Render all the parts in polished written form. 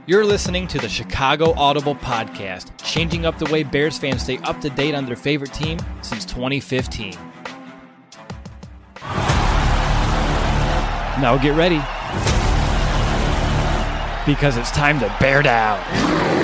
You're listening to the Chicago Audible Podcast, changing up the way Bears fans stay up to date on their favorite team since 2015. Now get ready, because it's time to bear down.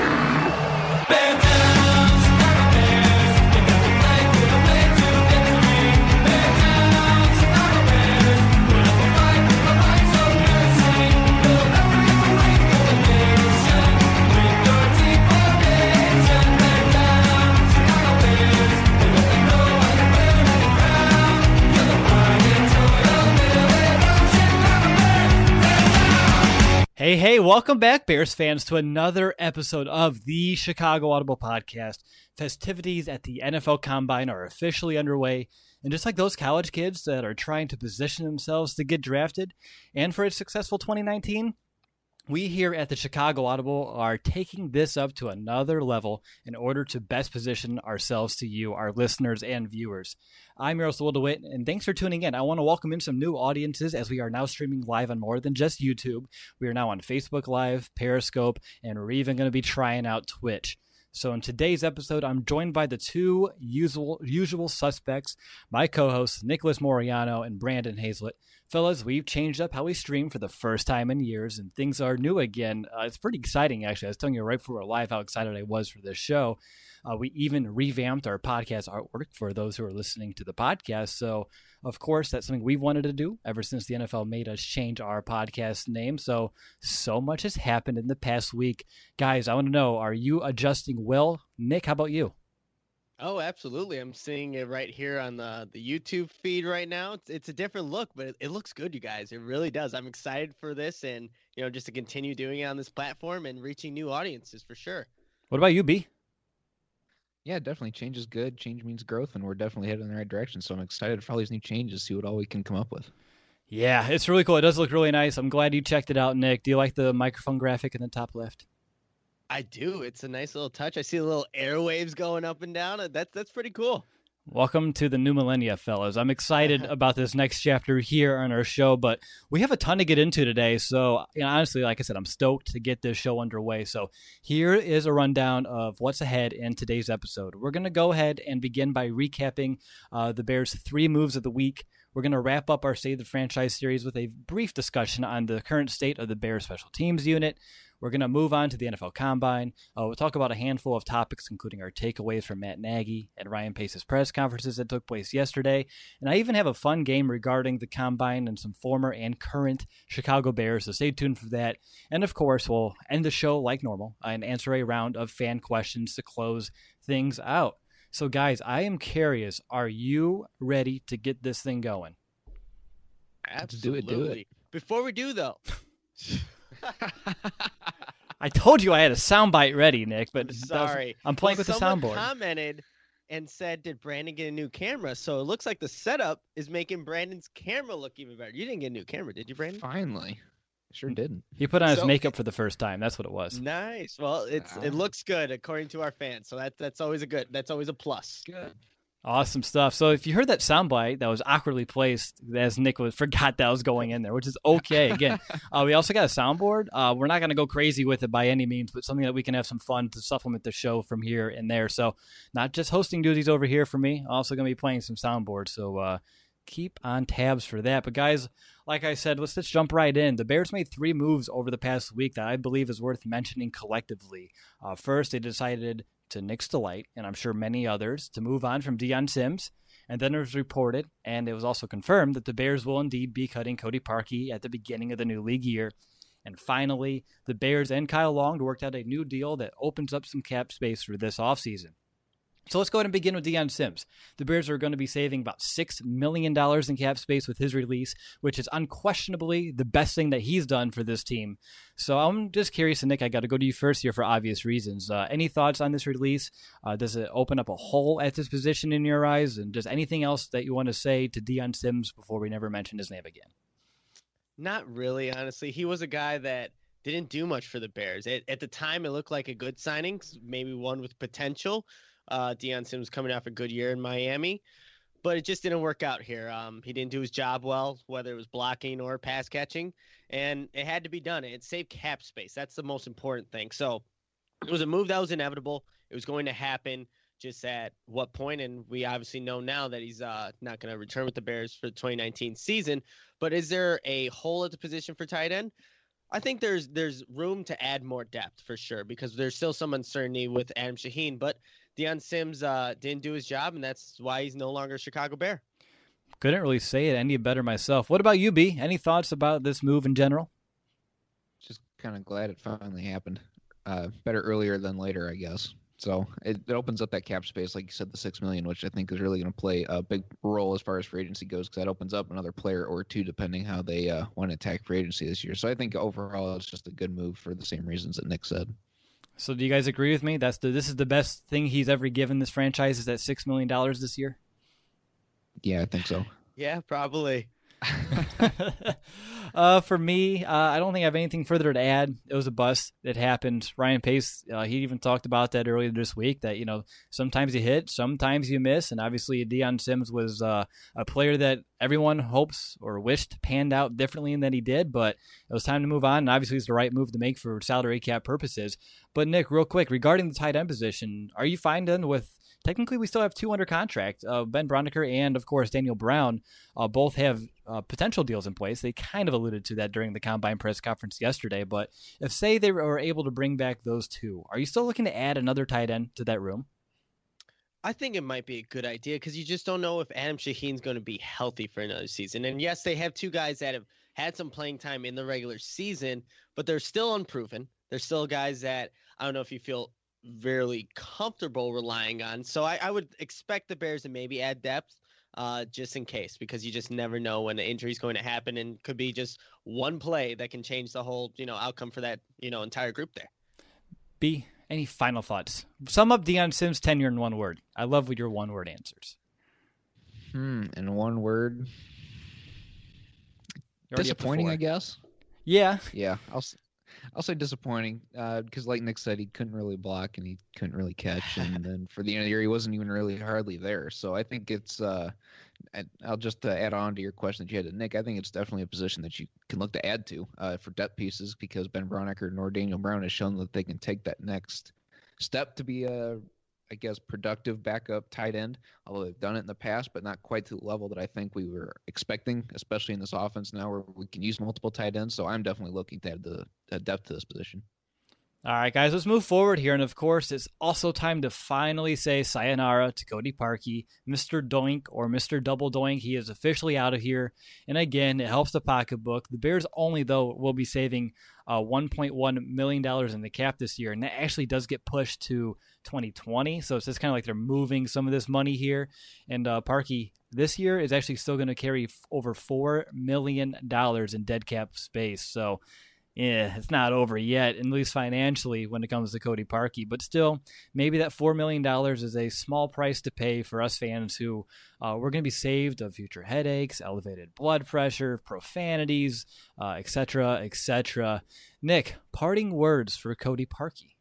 Hey, welcome back, Bears fans, to another episode of the Chicago Audible Podcast. Festivities at the NFL Combine are officially underway, and just like those college kids that are trying to position themselves to get drafted and for a successful 2019, we here at the Chicago Audible are taking this up to another level in order to best position ourselves to you, our listeners and viewers. I'm Miroslav DeWitt, and thanks for tuning in. I want to welcome in some new audiences as we are now streaming live on more than just YouTube. We are now on Facebook Live, Periscope, and we're even going to be trying out Twitch. So in today's episode, I'm joined by the two usual suspects, my co-hosts, Nicholas Moriano and Brandon Hazlett. Fellas, we've changed up how we stream for the first time in years, and things are new again. It's pretty exciting, actually. I was telling you right before we're live how excited I was for this show. We even revamped our podcast artwork for those who are listening to the podcast. So, of course, that's something we've wanted to do ever since the NFL made us change our podcast name. So much has happened in the past week. Guys, I want to know, are you adjusting well? Nick, how about you? Oh, absolutely. I'm seeing it right here on the YouTube feed right now. It's a different look, but it looks good, you guys. It really does. I'm excited for this and, just to continue doing it on this platform and reaching new audiences for sure. What about you, B? Yeah, definitely. Change is good. Change means growth, and we're definitely heading in the right direction. So I'm excited for all these new changes, see what all we can come up with. Yeah, it's really cool. It does look really nice. I'm glad you checked it out, Nick. Do you like the microphone graphic in the top left? I do. It's a nice little touch. I see the little airwaves going up and down. That's pretty cool. Welcome to the new millennia, fellas. I'm excited about this next chapter here on our show, but we have a ton to get into today. So, honestly, like I said, I'm stoked to get this show underway. So here is a rundown of what's ahead in today's episode. We're going to go ahead and begin by recapping the Bears' 3 moves of the week. We're going to wrap up our Save the Franchise series with a brief discussion on the current state of the Bears special teams unit. We're going to move on to the NFL Combine. We'll talk about a handful of topics, including our takeaways from Matt Nagy and Ryan Pace's press conferences that took place yesterday. And I even have a fun game regarding the Combine and some former and current Chicago Bears, so stay tuned for that. And, of course, we'll end the show like normal and answer a round of fan questions to close things out. So, guys, I am curious, are you ready to get this thing going? Absolutely. Do it. Before we do, though... I told you I had a soundbite ready, Nick, but sorry. I'm playing with the soundboard. Someone commented and said, did Brandon get a new camera? So it looks like the setup is making Brandon's camera look even better. You didn't get a new camera, did you, Brandon? Finally. Sure didn't. He put on his makeup for the first time. That's what it was. Nice. Well, it looks good according to our fans. So that's always a plus. Good. Awesome stuff. So if you heard that soundbite that was awkwardly placed as Nick forgot that was going in there, which is okay. Again, we also got a soundboard. We're not going to go crazy with it by any means, but something that we can have some fun to supplement the show from here and there. So not just hosting duties over here for me, also going to be playing some soundboards. So keep on tabs for that. But guys, like I said, let's just jump right in. The Bears made 3 moves over the past week that I believe is worth mentioning collectively. First, they decided, to Nick's delight, and I'm sure many others, to move on from Deion Sims. And then it was reported, and it was also confirmed, that the Bears will indeed be cutting Cody Parkey at the beginning of the new league year. And finally, the Bears and Kyle Long worked out a new deal that opens up some cap space for this offseason. So let's go ahead and begin with Deion Sims. The Bears are going to be saving about $6 million in cap space with his release, which is unquestionably the best thing that he's done for this team. So I'm just curious, and Nick, I got to go to you first here for obvious reasons. Any thoughts on this release? Does it open up a hole at this position in your eyes? And just anything else that you want to say to Deion Sims before we never mention his name again? Not really, honestly. He was a guy that didn't do much for the Bears. At the time, it looked like a good signing, maybe one with potential. Deion Sims coming off a good year in Miami. but it just didn't work out here. He didn't do his job well, whether it was blocking or pass catching, and it had to be done. It saved cap space. That's the most important thing. So it was a move that was inevitable. It was going to happen. Just at what point? And we obviously know now that he's not going to return with the Bears for the 2019 season. But is there a hole at the position for tight end? I think there's room to add more depth for sure, because there's still some uncertainty with Adam Shaheen. But Deion Sims didn't do his job, and that's why he's no longer a Chicago Bear. Couldn't really say it any better myself. What about you, B? Any thoughts about this move in general? Just kind of glad it finally happened. Better earlier than later, I guess. So it opens up that cap space, like you said, the $6 million, which I think is really going to play a big role as far as free agency goes, because that opens up another player or two, depending how they want to attack free agency this year. So I think overall it's just a good move for the same reasons that Nick said. So do you guys agree with me? This is the best thing he's ever given this franchise, is that $6 million this year? Yeah, I think so. Yeah, probably. For me, I don't think I have anything further to add. It was a bust. It happened. Ryan Pace, he even talked about that earlier this week, that, sometimes you hit, sometimes you miss. And obviously Deion Sims was a player that everyone hopes or wished panned out differently than he did, but it was time to move on. And obviously it's the right move to make for salary cap purposes. But Nick, real quick, regarding the tight end position, are you fine then with, technically, we still have two under contract. Ben Braunecker and, of course, Daniel Brown both have potential deals in place. They kind of alluded to that during the Combine press conference yesterday. But if, say, they were able to bring back those two, are you still looking to add another tight end to that room? I think it might be a good idea, because you just don't know if Adam Shaheen's going to be healthy for another season. And yes, they have two guys that have had some playing time in the regular season, but they're still unproven. They're still guys that I don't know if you feel very comfortable relying on. So I would expect the Bears to maybe add depth just in case, because you just never know when the injury is going to happen, and could be just one play that can change the whole, outcome for that, entire group there. B, any final thoughts? Sum up Deion Sims' tenure in one word. I love your one-word answers. In one word, disappointing, I guess. Yeah. Yeah, I'll say disappointing, because like Nick said, he couldn't really block and he couldn't really catch, and then for the end of the year, he wasn't even really hardly there. So I think it's, I'll just add on to your question that you had to Nick. I think it's definitely a position that you can look to add to for depth pieces, because Ben Braunecker nor Daniel Brown has shown that they can take that next step to be a, I guess, productive backup tight end, although they've done it in the past, but not quite to the level that I think we were expecting, especially in this offense now where we can use multiple tight ends. So I'm definitely looking to add the depth to this position. All right, guys, let's move forward here. And, of course, it's also time to finally say sayonara to Cody Parkey, Mr. Doink or Mr. Double Doink. He is officially out of here. And, again, it helps the pocketbook. The Bears only, though, will be saving $1.1 million in the cap this year. And that actually does get pushed to 2020. So it's just kind of like they're moving some of this money here. And Parkey this year is actually still going to carry over $4 million in dead cap space. So, yeah, it's not over yet, at least financially, when it comes to Cody Parkey. But still, maybe that $4 million is a small price to pay for us fans who we're going to be saved of future headaches, elevated blood pressure, profanities, etc., etc. Nick, parting words for Cody Parkey.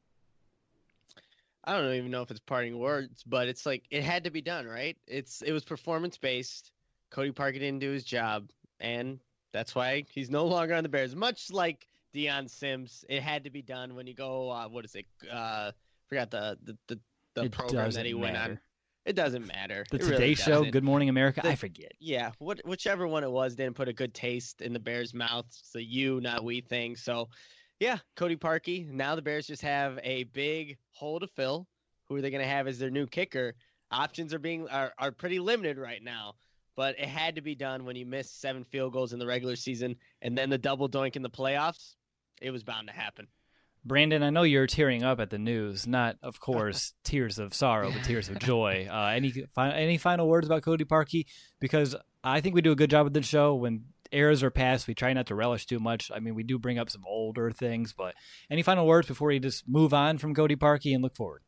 I don't even know if it's parting words, but it's like it had to be done, right? It was performance-based. Cody Parkey didn't do his job, and that's why he's no longer on the Bears. Much like Deion Sims, it had to be done. When you go, what is it? Forgot the program that he went on. It doesn't matter. The Today Show, Good Morning America. I forget. Yeah, whichever one it was didn't put a good taste in the Bears' mouth. It's a you, not we thing. So, yeah, Cody Parkey. Now the Bears just have a big hole to fill. Who are they going to have as their new kicker? Options are pretty limited right now. But it had to be done when you missed 7 field goals in the regular season and then the double doink in the playoffs. It was bound to happen. Brandon, I know you're tearing up at the news. Not, of course, tears of sorrow, but tears of joy. Any final words about Cody Parkey? Because I think we do a good job with the show. When eras are passed, we try not to relish too much. I mean, we do bring up some older things. But any final words before we just move on from Cody Parkey and look forward?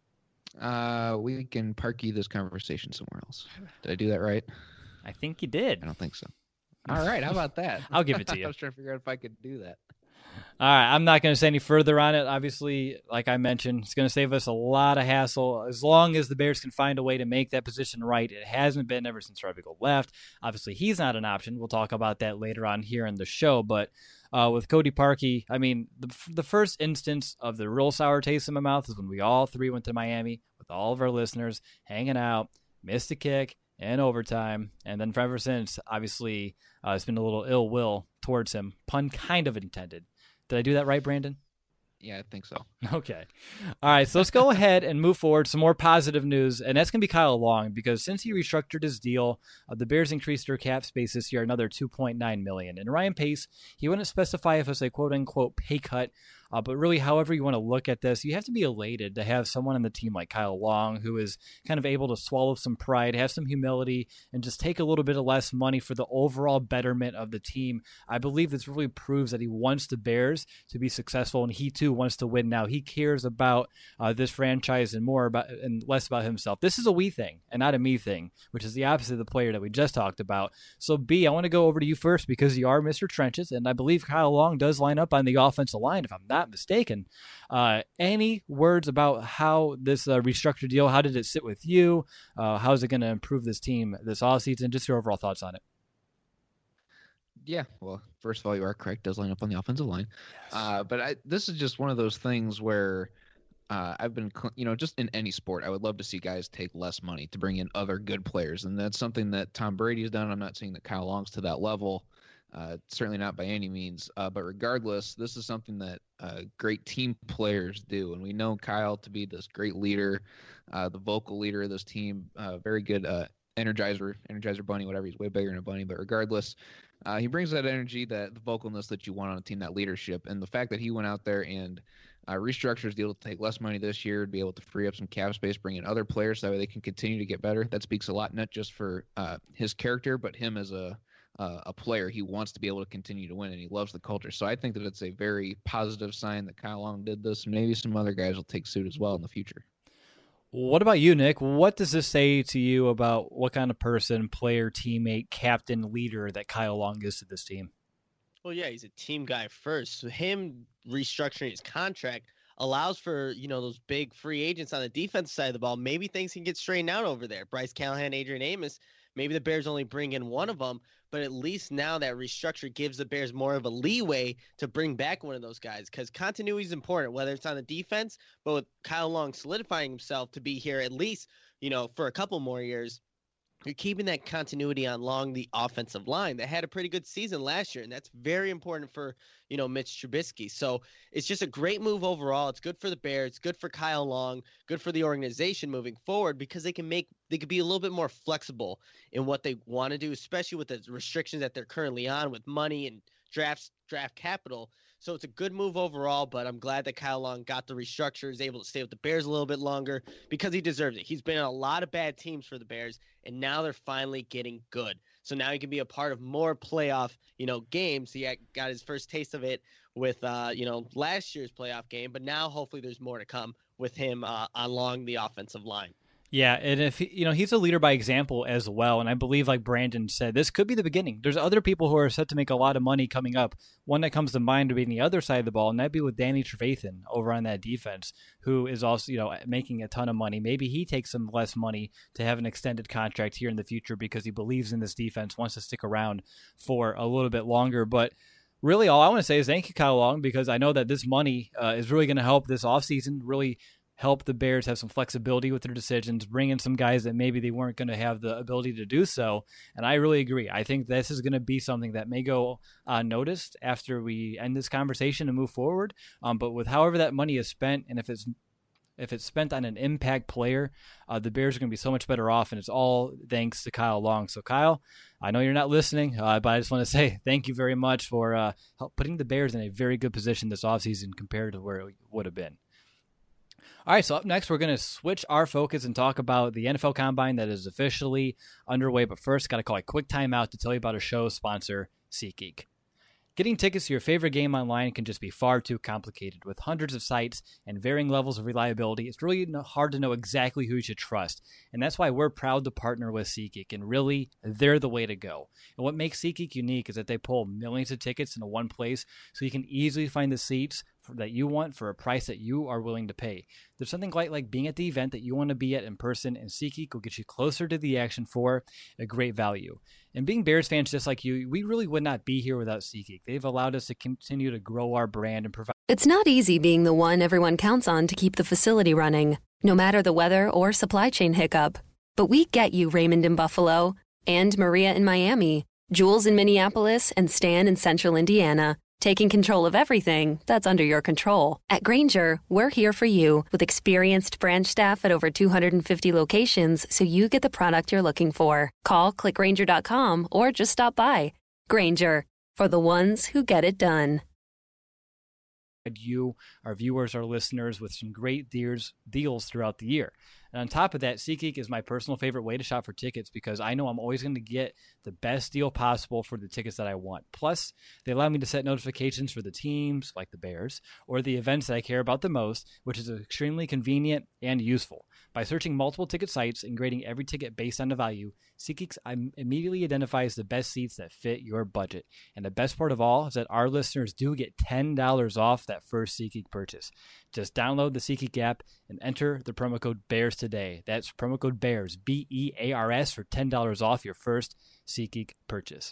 We can Parkey this conversation somewhere else. Did I do that right? I think you did. I don't think so. All right, how about that? I'll give it to you. I was trying to figure out if I could do that. All right, I'm not going to say any further on it. Obviously, like I mentioned, it's going to save us a lot of hassle as long as the Bears can find a way to make that position right. It hasn't been ever since Robbie Gould left. Obviously, he's not an option. We'll talk about that later on here in the show. But with Cody Parkey, I mean, the first instance of the real sour taste in my mouth is when we all three went to Miami with all of our listeners, hanging out, missed a kick in overtime, and then ever since, obviously, it's been a little ill will towards him, pun kind of intended. Did I do that right, Brandon? Yeah, I think so. Okay. All right, so let's go ahead and move forward. Some more positive news, and that's going to be Kyle Long, because since he restructured his deal, the Bears increased their cap space this year another $2.9 million. And Ryan Pace, he wouldn't specify if it's a quote-unquote pay cut, but really, however you want to look at this, you have to be elated to have someone on the team like Kyle Long who is kind of able to swallow some pride, have some humility, and just take a little bit of less money for the overall betterment of the team. I believe this really proves that he wants the Bears to be successful, and he too wants to win now. He cares about this franchise and less about himself. This is a we thing and not a me thing, which is the opposite of the player that we just talked about. So B, I want to go over to you first because you are Mr. Trenches, and I believe Kyle Long does line up on the offensive line, if I'm not mistaken. Any words about how this restructured deal, how did it sit with you? How is it going to improve this team this offseason? Just your overall thoughts on it. Yeah, well, first of all, you are correct. Does line up on the offensive line. Yes. But this is just one of those things where I've been, just in any sport, I would love to see guys take less money to bring in other good players. And that's something that Tom Brady has done. I'm not saying that Kyle Long's to that level. Certainly not by any means. But regardless, this is something that great team players do. And we know Kyle to be this great leader, the vocal leader of this team, very good Energizer bunny, whatever. He's way bigger than a bunny. But regardless, he brings that energy, the vocalness that you want on a team, that leadership. And the fact that he went out there and restructured his deal to take less money this year, to be able to free up some cap space, bring in other players so that way they can continue to get better. That speaks a lot, not just for his character, but him as a player. He wants to be able to continue to win, and he loves the culture. So I think that it's a very positive sign that Kyle Long did this, and maybe some other guys will take suit as well in the future. What about you, Nick? What does this say to you about what kind of person, player, teammate, captain, leader that Kyle Long is to this team? Well, yeah, he's a team guy first. So him restructuring his contract allows for, those big free agents on the defensive side of the ball. Maybe things can get straightened out over there. Bryce Callahan, Adrian Amos, maybe the Bears only bring in one of them, but at least now that restructure gives the Bears more of a leeway to bring back one of those guys, because continuity is important, whether it's on the defense, but with Kyle Long solidifying himself to be here at least, for a couple more years, you're keeping that continuity along the offensive line that had a pretty good season last year. And that's very important for, Mitch Trubisky. So it's just a great move overall. It's good for the Bears. It's good for Kyle Long, good for the organization moving forward, because they could be a little bit more flexible in what they want to do, especially with the restrictions that they're currently on with money and draft capital. So it's a good move overall, but I'm glad that Kyle Long got the restructure, is able to stay with the Bears a little bit longer because he deserves it. He's been on a lot of bad teams for the Bears, and now they're finally getting good. So now he can be a part of more playoff, games. He got his first taste of it with, last year's playoff game, but now hopefully there's more to come with him along the offensive line. Yeah, and if he's a leader by example as well, and I believe, like Brandon said, this could be the beginning. There's other people who are set to make a lot of money coming up. One that comes to mind would be on the other side of the ball, and that'd be with Danny Trevathan over on that defense, who is also making a ton of money. Maybe he takes some less money to have an extended contract here in the future because he believes in this defense, wants to stick around for a little bit longer. But really, all I want to say is thank you, Kyle Long, because I know that this money is really going to help this offseason, really help the Bears have some flexibility with their decisions, bring in some guys that maybe they weren't going to have the ability to do so. And I really agree. I think this is going to be something that may go unnoticed after we end this conversation and move forward. But with however that money is spent, and if it's spent on an impact player, the Bears are going to be so much better off, and it's all thanks to Kyle Long. So, Kyle, I know you're not listening, but I just want to say thank you very much for putting the Bears in a very good position this offseason compared to where it would have been. All right, so up next, we're going to switch our focus and talk about the NFL Combine that is officially underway. But first, got to call a quick timeout to tell you about our show sponsor, SeatGeek. Getting tickets to your favorite game online can just be far too complicated. With hundreds of sites and varying levels of reliability, it's really hard to know exactly who you should trust. And that's why we're proud to partner with SeatGeek, and really, they're the way to go. And what makes SeatGeek unique is that they pull millions of tickets into one place so you can easily find the seats that you want for a price that you are willing to pay. There's something quite like being at the event that you want to be at in person, and SeatGeek will get you closer to the action for a great value. And being Bears fans just like you, we really would not be here without SeatGeek. They've allowed us to continue to grow our brand and provide. It's not easy being the one everyone counts on to keep the facility running, no matter the weather or supply chain hiccup. But we get you, Raymond in Buffalo, and Maria in Miami, Jules in Minneapolis, and Stan in Central Indiana. Taking control of everything that's under your control. At Grainger, we're here for you with experienced branch staff at over 250 locations so you get the product you're looking for. Call, click Grainger.com, or just stop by. Grainger, for the ones who get it done. You, our viewers, our listeners, with some great deals throughout the year. And on top of that, SeatGeek is my personal favorite way to shop for tickets because I know I'm always going to get the best deal possible for the tickets that I want. Plus, they allow me to set notifications for the teams, like the Bears, or the events that I care about the most, which is extremely convenient and useful. By searching multiple ticket sites and grading every ticket based on the value, SeatGeek immediately identifies the best seats that fit your budget. And the best part of all is that our listeners do get $10 off that first SeatGeek purchase. Just download the SeatGeek app and enter the promo code BEARS today. That's promo code BEARS, BEARS, for $10 off your first SeatGeek purchase.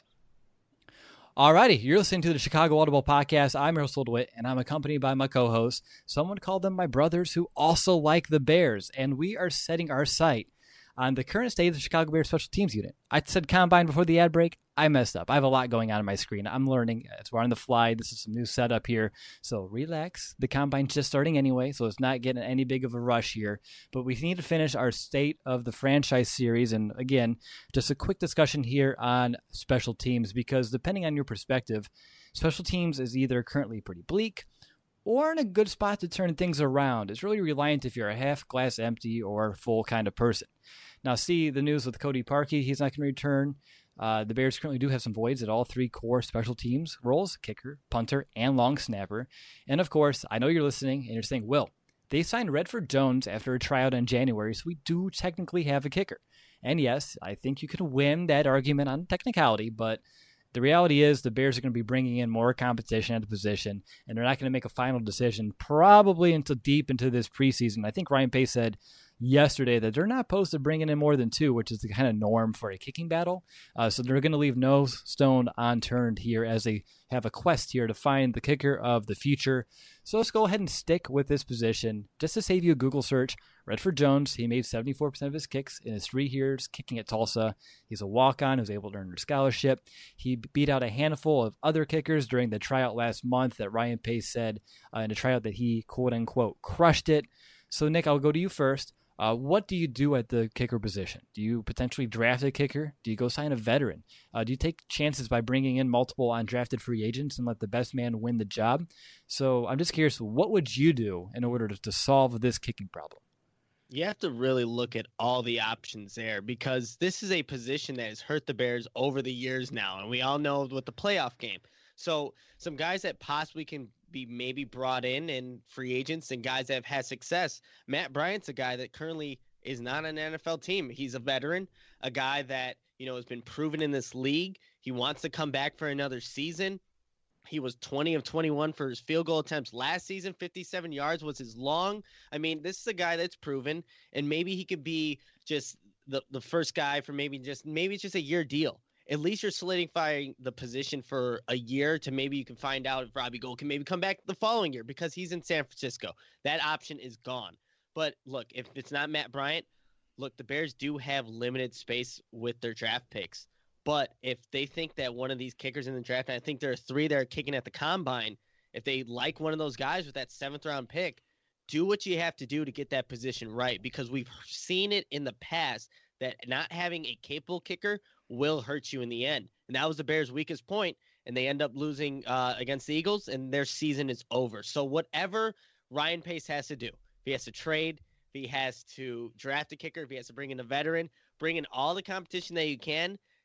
Alrighty, you're listening to the Chicago Audible Podcast. I'm Russell DeWitt, and I'm accompanied by my co-host. Someone called them my brothers who also like the Bears, and we are setting our sight on the current state of the Chicago Bears special teams unit. I said combine before the ad break. I messed up. I have a lot going on my screen. I'm learning. We're on the fly. This is some new setup here. So relax. The combine's just starting anyway, so it's not getting any big of a rush here. But we need to finish our State of the Franchise series. And again, just a quick discussion here on special teams, because depending on your perspective, special teams is either currently pretty bleak or in a good spot to turn things around. It's really reliant if you're a half glass empty or full kind of person. Now, see the news with Cody Parkey. He's not going to return. The Bears currently do have some voids at all three core special teams roles: kicker, punter, and long snapper. And of course, I know you're listening and you're saying, Will, they signed Redford Jones after a tryout in January, so we do technically have a kicker. And yes, I think you can win that argument on technicality, but the reality is the Bears are going to be bringing in more competition at the position, and they're not going to make a final decision probably until deep into this preseason. I think Ryan Pace said yesterday that they're not opposed to bringing in more than two, which is the kind of norm for a kicking battle. So they're going to leave no stone unturned here as they have a quest here to find the kicker of the future. So let's go ahead and stick with this position. Just to save you a Google search, Redford Jones, he made 74% of his kicks in his 3 years kicking at Tulsa. He's a walk-on who's able to earn a scholarship. He beat out a handful of other kickers during the tryout last month that Ryan Pace said in a tryout that he, quote-unquote, crushed it. So, Nick, I'll go to you first. What do you do at the kicker position? Do you potentially draft a kicker? Do you go sign a veteran? Do you take chances by bringing in multiple undrafted free agents and let the best man win the job? So I'm just curious, what would you do in order to solve this kicking problem? You have to really look at all the options there, because this is a position that has hurt the Bears over the years now, and we all know with the playoff game. So some guys that possibly can be maybe brought in and free agents and guys that have had success. Matt Bryant's a guy that currently is not on an NFL team. He's a veteran, a guy that, has been proven in this league. He wants to come back for another season. He was 20 of 21 for his field goal attempts last season. 57 yards was his long. I mean, this is a guy that's proven, and maybe he could be just the first guy for maybe it's just a year deal. At least you're solidifying the position for a year to maybe you can find out if Robbie Gould can maybe come back the following year because he's in San Francisco. That option is gone. But look, if it's not Matt Bryant, look, the Bears do have limited space with their draft picks. But if they think that one of these kickers in the draft, and I think there are 3 that are kicking at the combine, if they like one of those guys with that 7th-round pick, do what you have to do to get that position right, because we've seen it in the past that not having a capable kicker will hurt you in the end. And that was the Bears' weakest point, and they end up losing against the Eagles, and their season is over. So whatever Ryan Pace has to do, if he has to trade, if he has to draft a kicker, if he has to bring in a veteran, bring in all the competition that you can,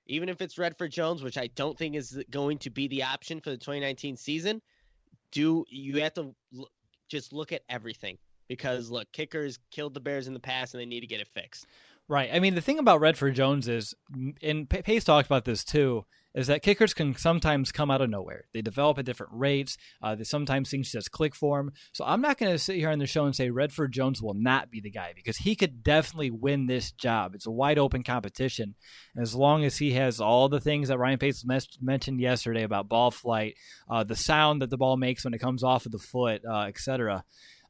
even if it's Redford Jones, which I don't think is going to be the option for the 2019 season, you have to just look at everything, because look, kickers killed the Bears in the past and they need to get it fixed. Right. I mean, the thing about Redford Jones is, and Pace talked about this too, is that kickers can sometimes come out of nowhere. They develop at different rates. Sometimes things just click for them. So I'm not going to sit here on the show and say Redford Jones will not be the guy, because he could definitely win this job. It's a wide open competition. And as long as he has all the things that Ryan Pace mentioned yesterday about ball flight, the sound that the ball makes when it comes off of the foot, etc.,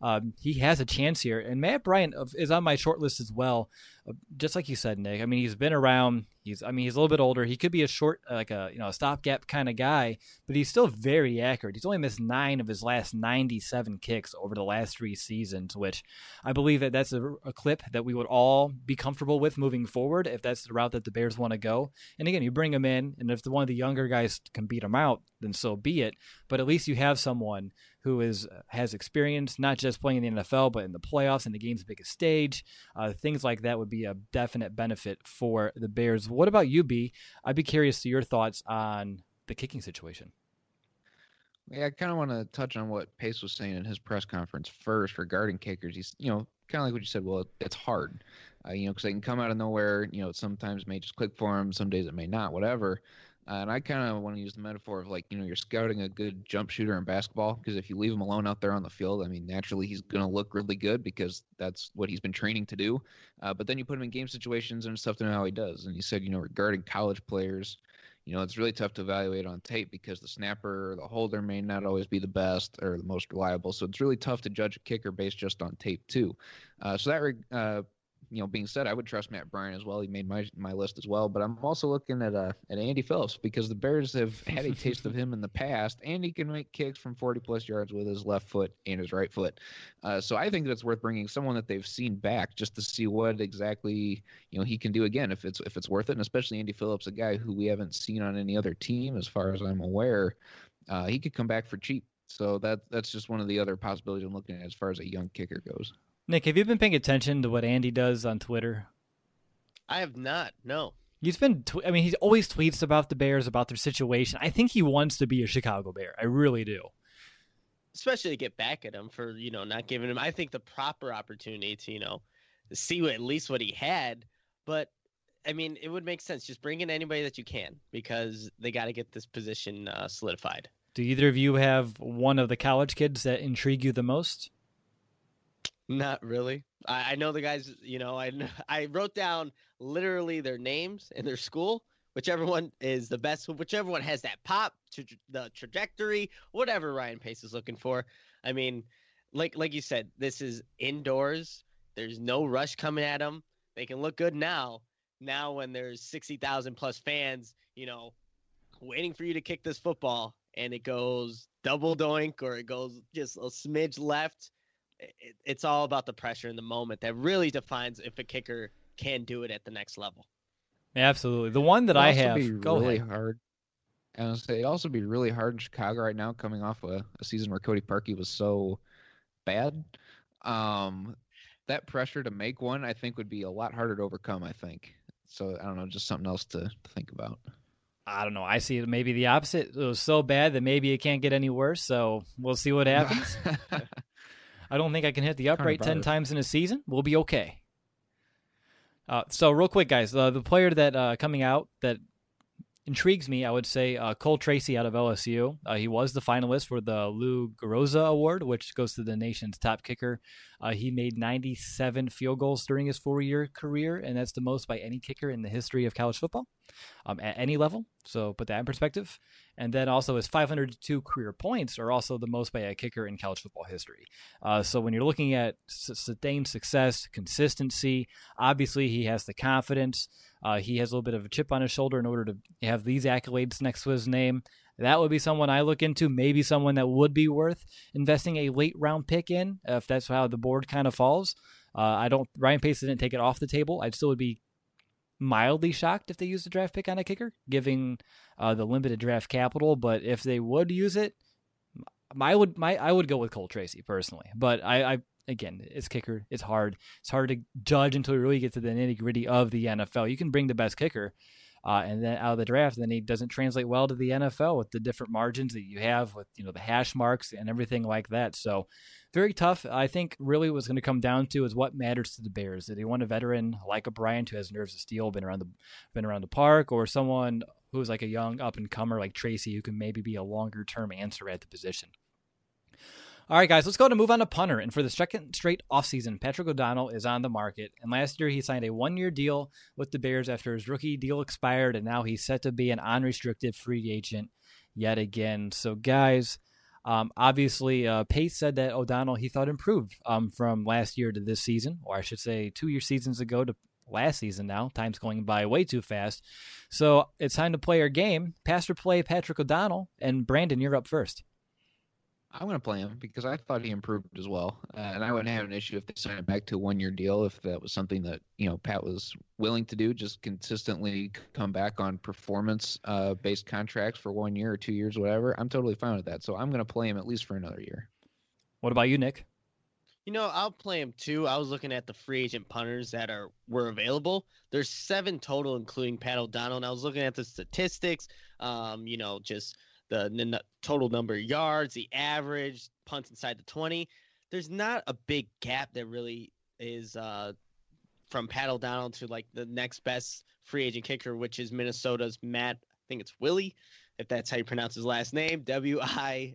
he has a chance here. And Matt Bryant is on my short list as well. Just like you said, Nick. I mean, he's been around. He's a little bit older. He could be a short, like a stopgap kind of guy, but he's still very accurate. He's only missed 9 of his last 97 kicks over the last 3 seasons, which I believe that's a clip that we would all be comfortable with moving forward if that's the route that the Bears want to go. And again, you bring him in, and if one of the younger guys can beat him out, then so be it. But at least you have someone who has experience, not just playing in the NFL, but in the playoffs and the game's biggest stage. Things like that would be a definite benefit for the Bears. What about you, B? I'd be curious to your thoughts on the kicking situation. Yeah, I kind of want to touch on what Pace was saying in his press conference first regarding kickers. He's, kind of like what you said. Well, it's hard, because they can come out of nowhere. Sometimes it may just click for them. Some days it may not, whatever. And I kind of want to use the metaphor of you're scouting a good jump shooter in basketball, because if you leave him alone out there on the field, I mean, naturally he's going to look really good because that's what he's been training to do. But then you put him in game situations and stuff to know how he does. And he said, regarding college players, it's really tough to evaluate on tape because the snapper or the holder may not always be the best or the most reliable. So it's really tough to judge a kicker based just on tape too. So that being said, I would trust Matt Bryant as well. He made my list as well. But I'm also looking at Andy Phillips, because the Bears have had a taste of him in the past, and he can make kicks from 40-plus yards with his left foot and his right foot. So I think that's worth bringing someone that they've seen back just to see what exactly he can do again, if it's worth it. And especially Andy Phillips, a guy who we haven't seen on any other team as far as I'm aware. He could come back for cheap. So that's just one of the other possibilities I'm looking at as far as a young kicker goes. Nick, have you been paying attention to what Andy does on Twitter? I have not, no. He's been, he always tweets about the Bears, about their situation. I think he wants to be a Chicago Bear. I really do. Especially to get back at him for, not giving him, I think, the proper opportunity to, see at least what he had. But, I mean, it would make sense. Just bring in anybody that you can, because they got to get this position solidified. Do either of you have one of the college kids that intrigue you the most? Not really. I know the guys, I wrote down literally their names and their school, whichever one is the best, whichever one has that pop, the trajectory, whatever Ryan Pace is looking for. I mean, like you said, this is indoors. There's no rush coming at them. They can look good now. Now when there's 60,000 plus fans, waiting for you to kick this football, and it goes double doink or it goes just a smidge left. It's all about the pressure in the moment that really defines if a kicker can do it at the next level. Absolutely. The one that I have, hard. I was say it'd also be really hard in Chicago right now, coming off a season where Cody Parkey was so bad. That pressure to make one, I think, would be a lot harder to overcome, I think. So I don't know, just something else to think about. I don't know. I see it maybe the opposite. It was so bad that maybe it can't get any worse. So we'll see what happens. I don't think I can hit the upright 10 times in a season. We'll be okay. So real quick, guys, the player that coming out that intrigues me, I would say Cole Tracy out of LSU. He was the finalist for the Lou Garroza Award, which goes to the nation's top kicker. He made 97 field goals during his 4-year career, and that's the most by any kicker in the history of college football at any level. So put that in perspective. And then also his 502 career points are also the most by a kicker in college football history. So when you're looking at sustained success, consistency, obviously he has the confidence. He has a little bit of a chip on his shoulder in order to have these accolades next to his name. That would be someone I look into, maybe someone that would be worth investing a late round pick in, if that's how the board kind of falls. Ryan Pace didn't take it off the table. I still would be mildly shocked if they used a draft pick on a kicker, giving the limited draft capital. But if they would use it, I would go with Cole Tracy personally. But again, it's kicker. It's hard. It's hard to judge until we really get to the nitty gritty of the NFL. You can bring the best kicker, and then out of the draft, then he doesn't translate well to the NFL with the different margins that you have with, the hash marks and everything like that. So very tough. I think really what's going to come down to is what matters to the Bears. Do they want a veteran like a Bryant who has nerves of steel, been around the park, or someone who's like a young up and comer like Tracy who can maybe be a longer term answer at the position? All right, guys, let's go to move on to punter. And for the second straight offseason, Patrick O'Donnell is on the market. And last year, he signed a 1-year deal with the Bears after his rookie deal expired. And now he's set to be an unrestricted free agent yet again. So, guys, obviously, Pace said that O'Donnell, he thought improved from last year to this season, or I should say 2 seasons ago to last season now. Time's going by way too fast. So it's time to play our game. Pass or play Patrick O'Donnell. And Brandon, you're up first. I'm going to play him because I thought he improved as well. And I wouldn't have an issue if they signed him back to a 1-year deal, if that was something that, Pat was willing to do, just consistently come back on performance-based contracts for 1 year or 2 years, whatever. I'm totally fine with that. So I'm going to play him at least for another year. What about you, Nick? I'll play him too. I was looking at the free agent punters that were available. There's 7 total, including Pat O'Donnell. And I was looking at the statistics, just the total number of yards, the average, punts inside the 20. There's not a big gap that really is from Pat O'Donnell to like the next best free agent kicker, which is Minnesota's Matt, I think it's Willie, if that's how you pronounce his last name, Wile.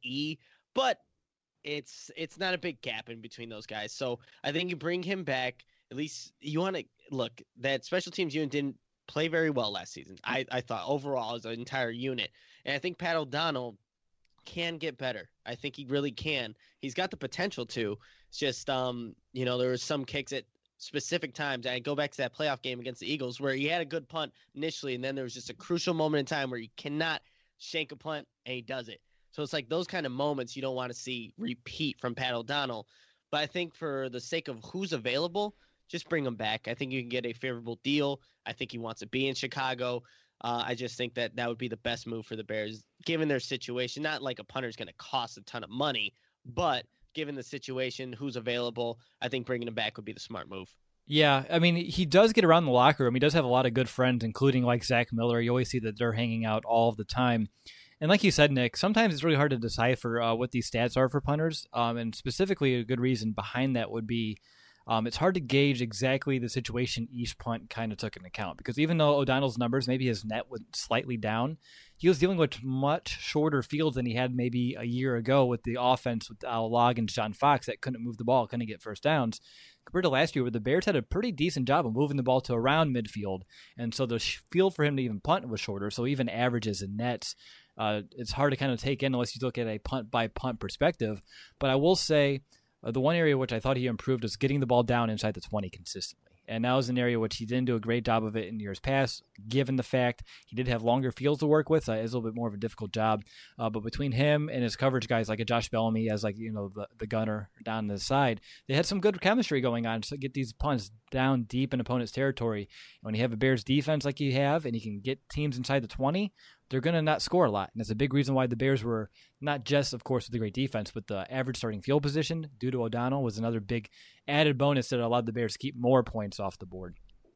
But it's not a big gap in between those guys. So I think you bring him back. At least you want to look, that special teams unit didn't play very well last season. I thought overall as an entire unit. And I think Pat O'Donnell can get better. I think he really can. He's got the potential to. It's just, there were some kicks at specific times. I go back to that playoff game against the Eagles where he had a good punt initially, and then there was just a crucial moment in time where you cannot shank a punt, and he does it. So it's like those kind of moments you don't want to see repeat from Pat O'Donnell. But I think for the sake of who's available, just bring him back. I think you can get a favorable deal. I think he wants to be in Chicago. I just think that would be the best move for the Bears, given their situation. Not like a punter is going to cost a ton of money, but given the situation, who's available, I think bringing him back would be the smart move. Yeah, I mean, he does get around the locker room. He does have a lot of good friends, including like Zach Miller. You always see that they're hanging out all of the time. And like you said, Nick, sometimes it's really hard to decipher what these stats are for punters. And specifically, a good reason behind that would be it's hard to gauge exactly the situation each punt kind of took into account, because even though O'Donnell's numbers, maybe his net went slightly down, he was dealing with much shorter fields than he had maybe a year ago with the offense with Al Log and John Fox that couldn't move the ball, couldn't get first downs, compared to last year where the Bears had a pretty decent job of moving the ball to around midfield. And so the field for him to even punt was shorter. So even averages and nets, it's hard to kind of take in unless you look at a punt-by-punt perspective. But I will say, the one area which I thought he improved was getting the ball down inside the 20 consistently. And that was an area which he didn't do a great job of it in years past, given the fact he did have longer fields to work with. So it was a little bit more of a difficult job. But between him and his coverage guys like a Josh Bellamy as the gunner down the side, they had some good chemistry going on to get these punts down deep in opponent's territory. When you have a Bears defense like you have and you can get teams inside the 20, they're going to not score a lot. And that's a big reason why the Bears were not just, of course, with the great defense, but the average starting field position due to O'Donnell was another big added bonus that allowed the Bears to keep more points off the board.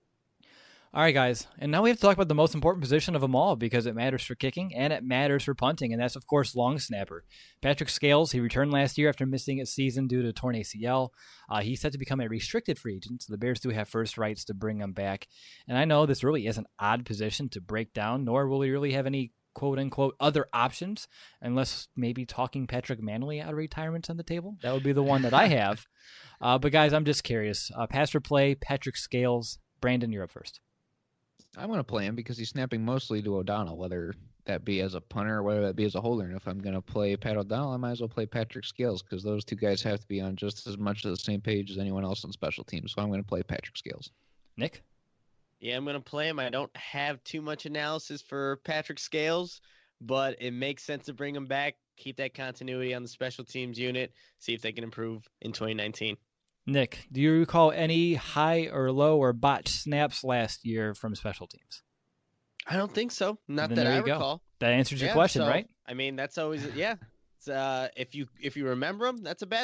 All right, guys. And now we have to talk about the most important position of them all, because it matters for kicking and it matters for punting, and that's, of course, long snapper. Patrick Scales, he returned last year after missing a season due to torn ACL. He's set to become a restricted free agent, so the Bears do have first rights to bring him back. And I know this really is an odd position to break down, nor will he really have any quote-unquote other options, unless maybe talking Patrick Manley out of retirement's on the table. That would be the one that I have. But, guys, I'm just curious. Pass or play, Patrick Scales. Brandon, you're up first. I'm going to play him because he's snapping mostly to O'Donnell, whether that be as a punter or whether that be as a holder. And if I'm going to play Pat O'Donnell, I might as well play Patrick Scales, because those two guys have to be on just as much of the same page as anyone else on special teams. So I'm going to play Patrick Scales. Nick? Yeah, I'm going to play him. I don't have too much analysis for Patrick Scales, but it makes sense to bring him back, keep that continuity on the special teams unit, see if they can improve in 2019. Nick, do you recall any high or low or botched snaps last year from special teams? I don't think so. Not Then that there I you go. recall. That answers your question, so, right? I mean, that's always, yeah. It's, if you remember them, that's a bad thing.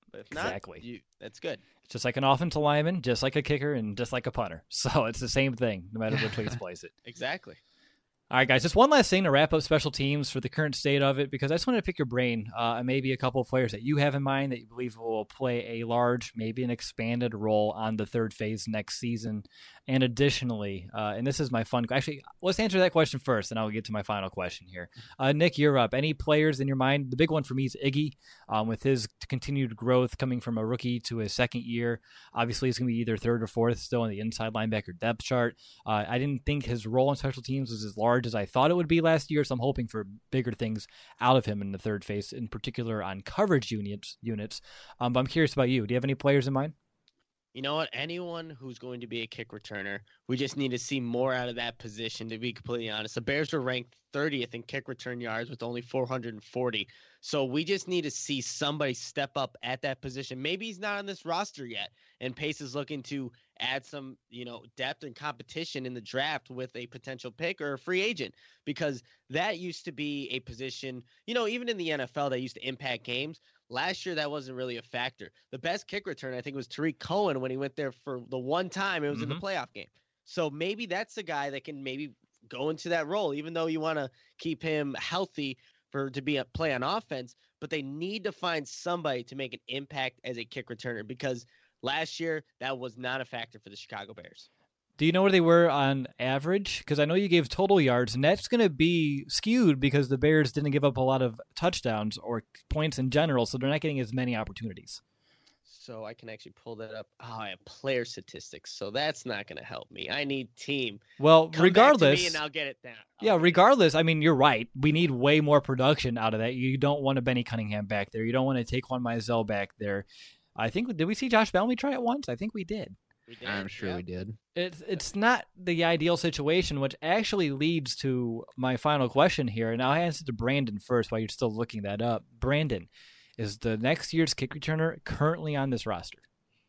But if Exactly. not, that's good. It's just like an offensive lineman, just like a kicker, and just like a punter. So it's the same thing, no matter which way you place it. Exactly. All right, guys, just one last thing to wrap up special teams for the current state of it, because I just wanted to pick your brain and maybe a couple of players that you have in mind that you believe will play a large, maybe an expanded role on the third phase next season. And additionally, and this is my fun, actually, let's answer that question first, and I'll get to my final question here. Nick, you're up. Any players in your mind? The big one for me is Iggy, with his continued growth coming from a rookie to his second year. Obviously, he's going to be either third or fourth still in the inside linebacker depth chart. I didn't think his role in special teams was as large as I thought it would be last year, so I'm hoping for bigger things out of him in the third phase, in particular on coverage units. But I'm curious about you. Do you have any players in mind? You know what? Anyone who's going to be a kick returner, we just need to see more out of that position, to be completely honest. The Bears are ranked 30th in kick return yards with only 440. So we just need to see somebody step up at that position. Maybe he's not on this roster yet, and Pace is looking to add some, depth and competition in the draft with a potential pick or a free agent, because that used to be a position, even in the NFL that used to impact games. Last year, that wasn't really a factor. The best kick return, I think, was Tariq Cohen when he went there for the one time it was in the playoff game. So maybe that's the guy that can maybe go into that role, even though you want to keep him healthy to play on offense. But they need to find somebody to make an impact as a kick returner, because last year that was not a factor for the Chicago Bears. Do you know where they were on average? Because I know you gave total yards, and that's going to be skewed because the Bears didn't give up a lot of touchdowns or points in general, so they're not getting as many opportunities. So I can actually pull that up. Oh, I have player statistics, so that's not going to help me. I need team. Well, Come regardless, back to me and I'll get it down. Regardless, I mean, you're right. We need way more production out of that. You don't want a Benny Cunningham back there. You don't want to take Taquan Mizell back there. I think, did we see Josh Bellamy try it once? I think we did. I'm sure we did. It's not the ideal situation, which actually leads to my final question here. And I'll answer to Brandon first while you're still looking that up. Brandon, is the next year's kick returner currently on this roster?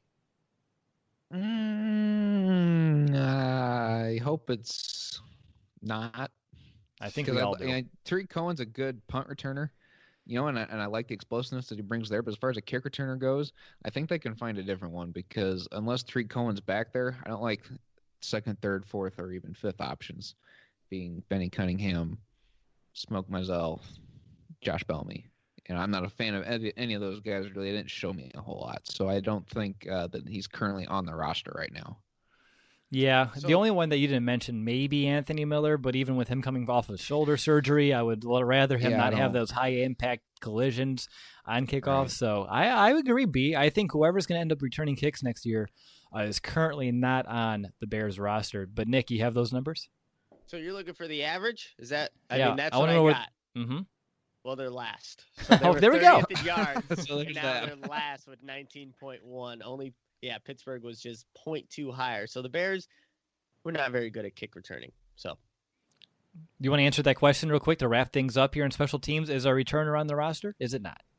I hope it's not. I think we all do. Tariq Cohen's a good punt returner. And I like the explosiveness that he brings there. But as far as a kick returner goes, I think they can find a different one, because unless Tariq Cohen's back there, I don't like second, third, fourth, or even fifth options being Benny Cunningham, Smoke Mizell, Josh Bellamy. I'm not a fan of any of those guys, really. They didn't show me a whole lot. So I don't think that he's currently on the roster right now. Yeah, the only one that you didn't mention may be Anthony Miller, but even with him coming off of shoulder surgery, I would rather him not have those high-impact collisions on kickoff. Right. So I would agree, B. I think whoever's going to end up returning kicks next year is currently not on the Bears roster. But, Nick, you have those numbers? So you're looking for the average? Is that? I mean, that's what I got. Mm-hmm. Well, they're last. So they were there we go. In yards, so and now they're last with 19.1. Only, Pittsburgh was just 0.2 higher. So the Bears were not very good at kick returning. So, do you want to answer that question real quick to wrap things up here in special teams? Is our returner on the roster? Is it not?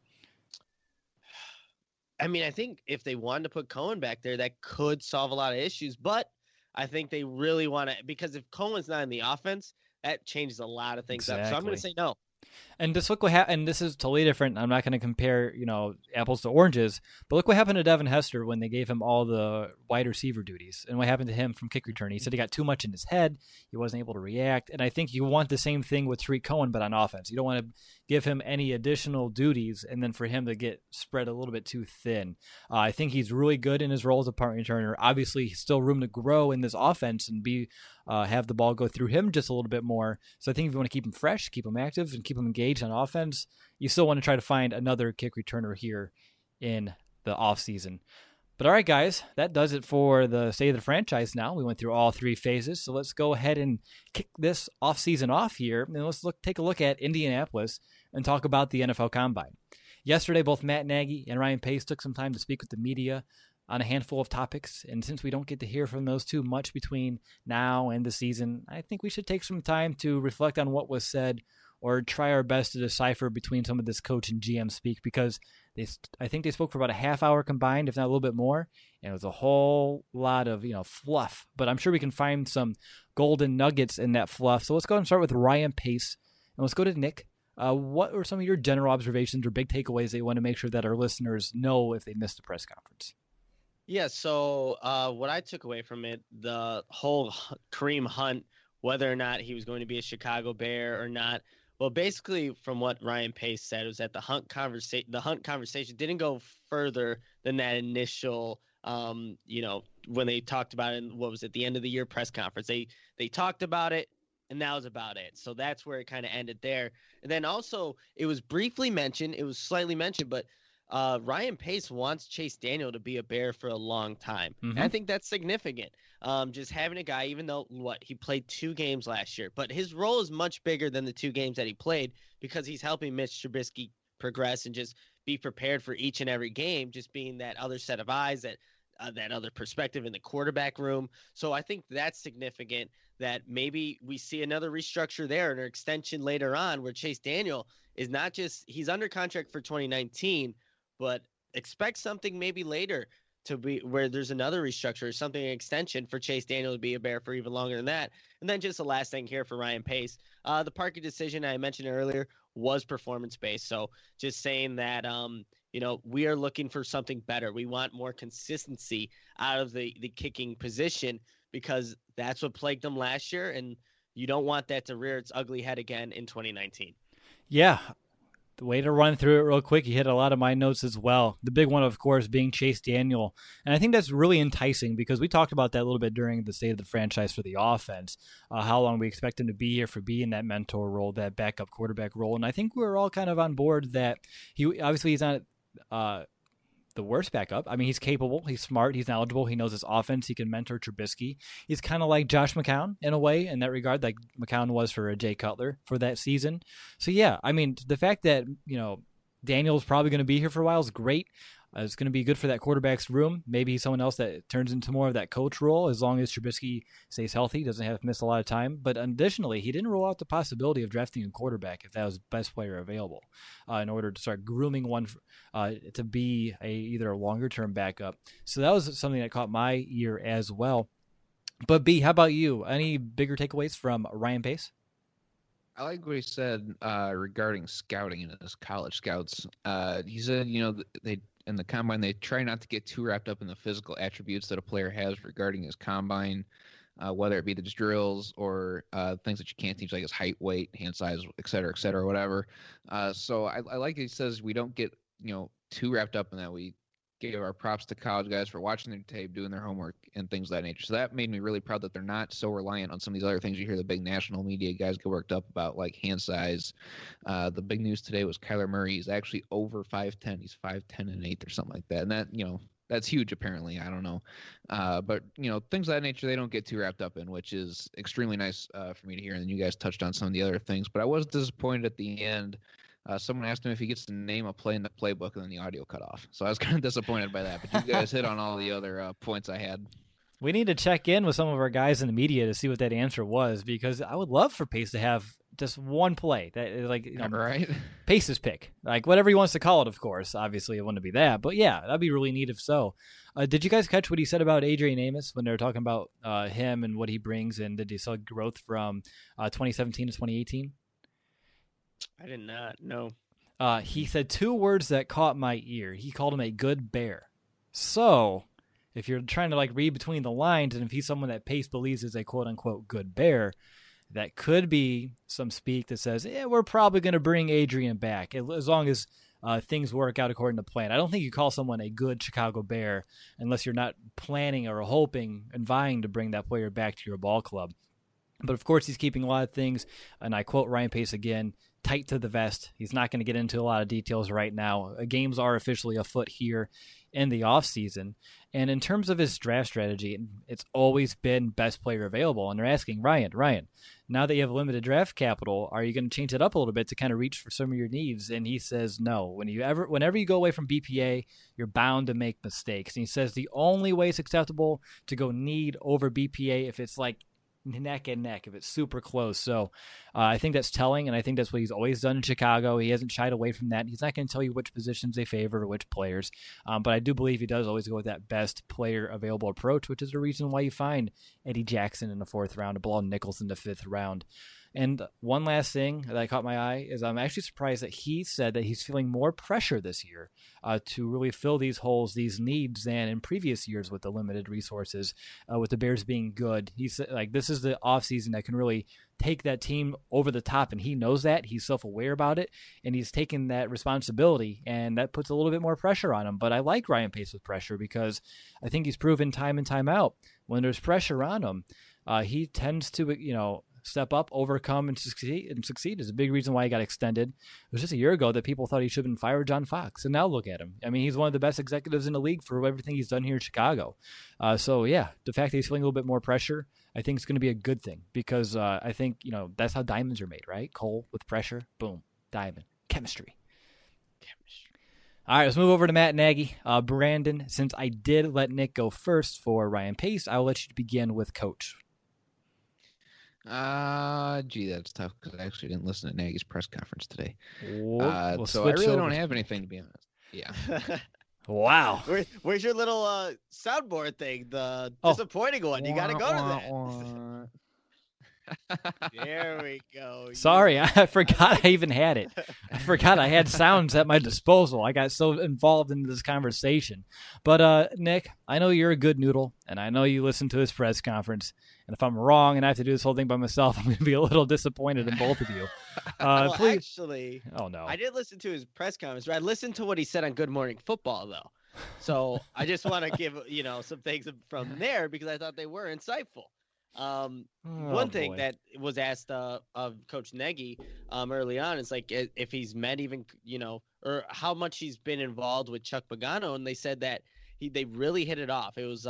I mean, I think if they wanted to put Cohen back there, that could solve a lot of issues. But I think they really want to, because if Cohen's not in the offense, that changes a lot of things up. So I'm going to say no. And just look what happened. And this is totally different. I'm not going to compare, apples to oranges. But look what happened to Devin Hester when they gave him all the wide receiver duties, and what happened to him from kick return. He said he got too much in his head. He wasn't able to react. And I think you want the same thing with Tariq Cohen, but on offense. You don't want to give him any additional duties, and then for him to get spread a little bit too thin. I think he's really good in his role as a punt returner. Obviously, still room to grow in this offense and have the ball go through him just a little bit more. So I think if you want to keep him fresh, keep him active, and keep him engaged on offense, you still want to try to find another kick returner here in the offseason. But all right, guys, that does it for the state of the franchise now. We went through all three phases, so let's go ahead and kick this offseason off here, and let's take a look at Indianapolis and talk about the NFL Combine. Yesterday, both Matt Nagy and Ryan Pace took some time to speak with the media on a handful of topics, and since we don't get to hear from those two much between now and the season, I think we should take some time to reflect on what was said or try our best to decipher between some of this coach and GM speak, because I think they spoke for about a half hour combined, if not a little bit more, and it was a whole lot of fluff. But I'm sure we can find some golden nuggets in that fluff. So let's go ahead and start with Ryan Pace, and let's go to Nick. what were some of your general observations or big takeaways that you want to make sure that our listeners know if they missed the press conference? Yeah, so what I took away from it, the whole Kareem Hunt, whether or not he was going to be a Chicago Bear or not. Well, basically, from what Ryan Pace said, was that the Hunt conversation didn't go further than that initial, when they talked about it. What was it, the end of the year press conference? They talked about it, and that was about it. So that's where it kind of ended there. And then also, it was briefly mentioned. It was slightly mentioned, but Ryan Pace wants Chase Daniel to be a Bear for a long time. Mm-hmm. And I think that's significant. Just having a guy, even though he played 2 games last year, but his role is much bigger than the 2 games that he played because he's helping Mitch Trubisky progress and just be prepared for each and every game, just being that other set of eyes, that other perspective in the quarterback room. So I think that's significant that maybe we see another restructure there and an extension later on where Chase Daniel is not just, he's under contract for 2019, but expect something maybe later to be where there's another restructure or something, an extension for Chase Daniel to be a Bear for even longer than that. And then just the last thing here for Ryan Pace, the Parkey decision I mentioned earlier was performance-based. So just saying that, we are looking for something better. We want more consistency out of the kicking position because that's what plagued them last year. And you don't want that to rear its ugly head again in 2019. Yeah. The way to run through it real quick, you hit a lot of my notes as well. The big one, of course, being Chase Daniel. And I think that's really enticing because we talked about that a little bit during the state of the franchise for the offense, how long we expect him to be here for being that mentor role, that backup quarterback role. And I think we're all kind of on board that he's not the worst backup. I mean, he's capable, he's smart, he's knowledgeable, he knows his offense, he can mentor Trubisky. He's kind of like Josh McCown in a way, in that regard, like McCown was for Jay Cutler for that season. So yeah, I mean, the fact that, Daniel's probably going to be here for a while is great. It's going to be good for that quarterback's room. Maybe he's someone else that turns into more of that coach role as long as Trubisky stays healthy, doesn't have to miss a lot of time. But additionally, he didn't rule out the possibility of drafting a quarterback if that was the best player available in order to start grooming one to be either a longer-term backup. So that was something that caught my ear as well. But B, how about you? Any bigger takeaways from Ryan Pace? I like what he said regarding scouting and his college scouts. He said, they in the combine, they try not to get too wrapped up in the physical attributes that a player has regarding his combine, whether it be the drills or things that you can't teach, like his height, weight, hand size, et cetera, whatever. So I like he says we don't get, too wrapped up in that. We give our props to college guys for watching their tape, doing their homework, and things of that nature. So that made me really proud that they're not so reliant on some of these other things you hear the big national media guys get worked up about, like hand size. The big news today was Kyler Murray. He's actually over 5'10". He's 5'10" and 1/8 or something like that. And that, that's huge apparently. I don't know. But, things of that nature they don't get too wrapped up in, which is extremely nice for me to hear. And then you guys touched on some of the other things. But I was disappointed at the end. Someone asked him if he gets to name a play in the playbook, and then the audio cut off. So I was kind of disappointed by that. But you guys hit on all the other points I had. We need to check in with some of our guys in the media to see what that answer was, because I would love for Pace to have just one play that is like, right? Pace's pick, like whatever he wants to call it. Of course, obviously it wouldn't be that, but yeah, that'd be really neat if so. Did you guys catch what he said about Adrian Amos when they were talking about him and what he brings, and did you see growth from 2017 to 2018? I did not know. He said 2 words that caught my ear. He called him a good Bear. So if you're trying to read between the lines, and if he's someone that Pace believes is a quote unquote good Bear, that could be some speak that says, we're probably going to bring Adrian back as long as things work out according to plan. I don't think you call someone a good Chicago Bear unless you're not planning or hoping and vying to bring that player back to your ball club. But of course, he's keeping a lot of things, and I quote Ryan Pace again, tight to the vest. He's not going to get into a lot of details right now. Games are officially afoot here in the offseason. And in terms of his draft strategy, it's always been best player available. And they're asking, Ryan, now that you have limited draft capital, are you going to change it up a little bit to kind of reach for some of your needs? And he says no. Whenever you go away from BPA, you're bound to make mistakes. And he says the only way it's acceptable to go need over BPA if it's like neck and neck, if it's super close. So I think that's telling, and I think that's what he's always done in Chicago. He hasn't shied away from that. He's not going to tell you which positions they favor or which players, but I do believe he does always go with that best player available approach, which is the reason why you find Eddie Jackson in the 4th round, Bilal Nichols in the 5th round. And one last thing that caught my eye is I'm actually surprised that he said that he's feeling more pressure this year to really fill these holes, these needs, than in previous years with the limited resources, with the Bears being good. He said, like, this is the offseason that can really take that team over the top, and he knows that. He's self-aware about it, and he's taking that responsibility, and that puts a little bit more pressure on him. But I like Ryan Pace with pressure because I think he's proven time and time out when there's pressure on him, he tends to, step up, overcome, and succeed is a big reason why he got extended. It was just a year ago that people thought he should have been fired John Fox, and now look at him. I mean, he's one of the best executives in the league for everything he's done here in Chicago. So, yeah, the fact that he's feeling a little bit more pressure, I think it's going to be a good thing because I think, that's how diamonds are made, right? Coal with pressure, boom, diamond. Chemistry. All right, let's move over to Matt Nagy. Brandon, since I did let Nick go first for Ryan Pace, I'll let you begin with Coach. That's tough because I actually didn't listen to Nagy's press conference today. We'll so I really don't have anything, to be honest. Yeah. Wow. Where's your little soundboard thing? The disappointing one. You got to go to that. There we go. Sorry, I forgot I even had it. I forgot I had sounds at my disposal. I got so involved in this conversation. But, Nick, I know you're a good noodle, and I know you listened to his press conference. And if I'm wrong and I have to do this whole thing by myself, I'm going to be a little disappointed in both of you. Well, please. Actually, oh no, I did listen to his press conference. I listened to what he said on Good Morning Football, though. So I just want to give some things from there because I thought they were insightful. One thing that was asked of Coach Nagy early on is like if he's met even or how much he's been involved with Chuck Pagano, and they said that they really hit it off. It was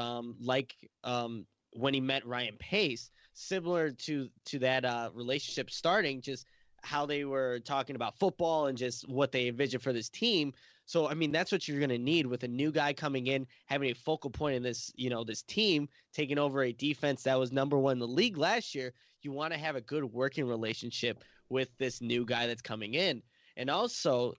when he met Ryan Pace, similar to that relationship starting, just how they were talking about football and just what they envisioned for this team. So, I mean, that's what you're going to need with a new guy coming in, having a focal point in this, this team, taking over a defense that was number one in the league last year. You want to have a good working relationship with this new guy that's coming in. And also,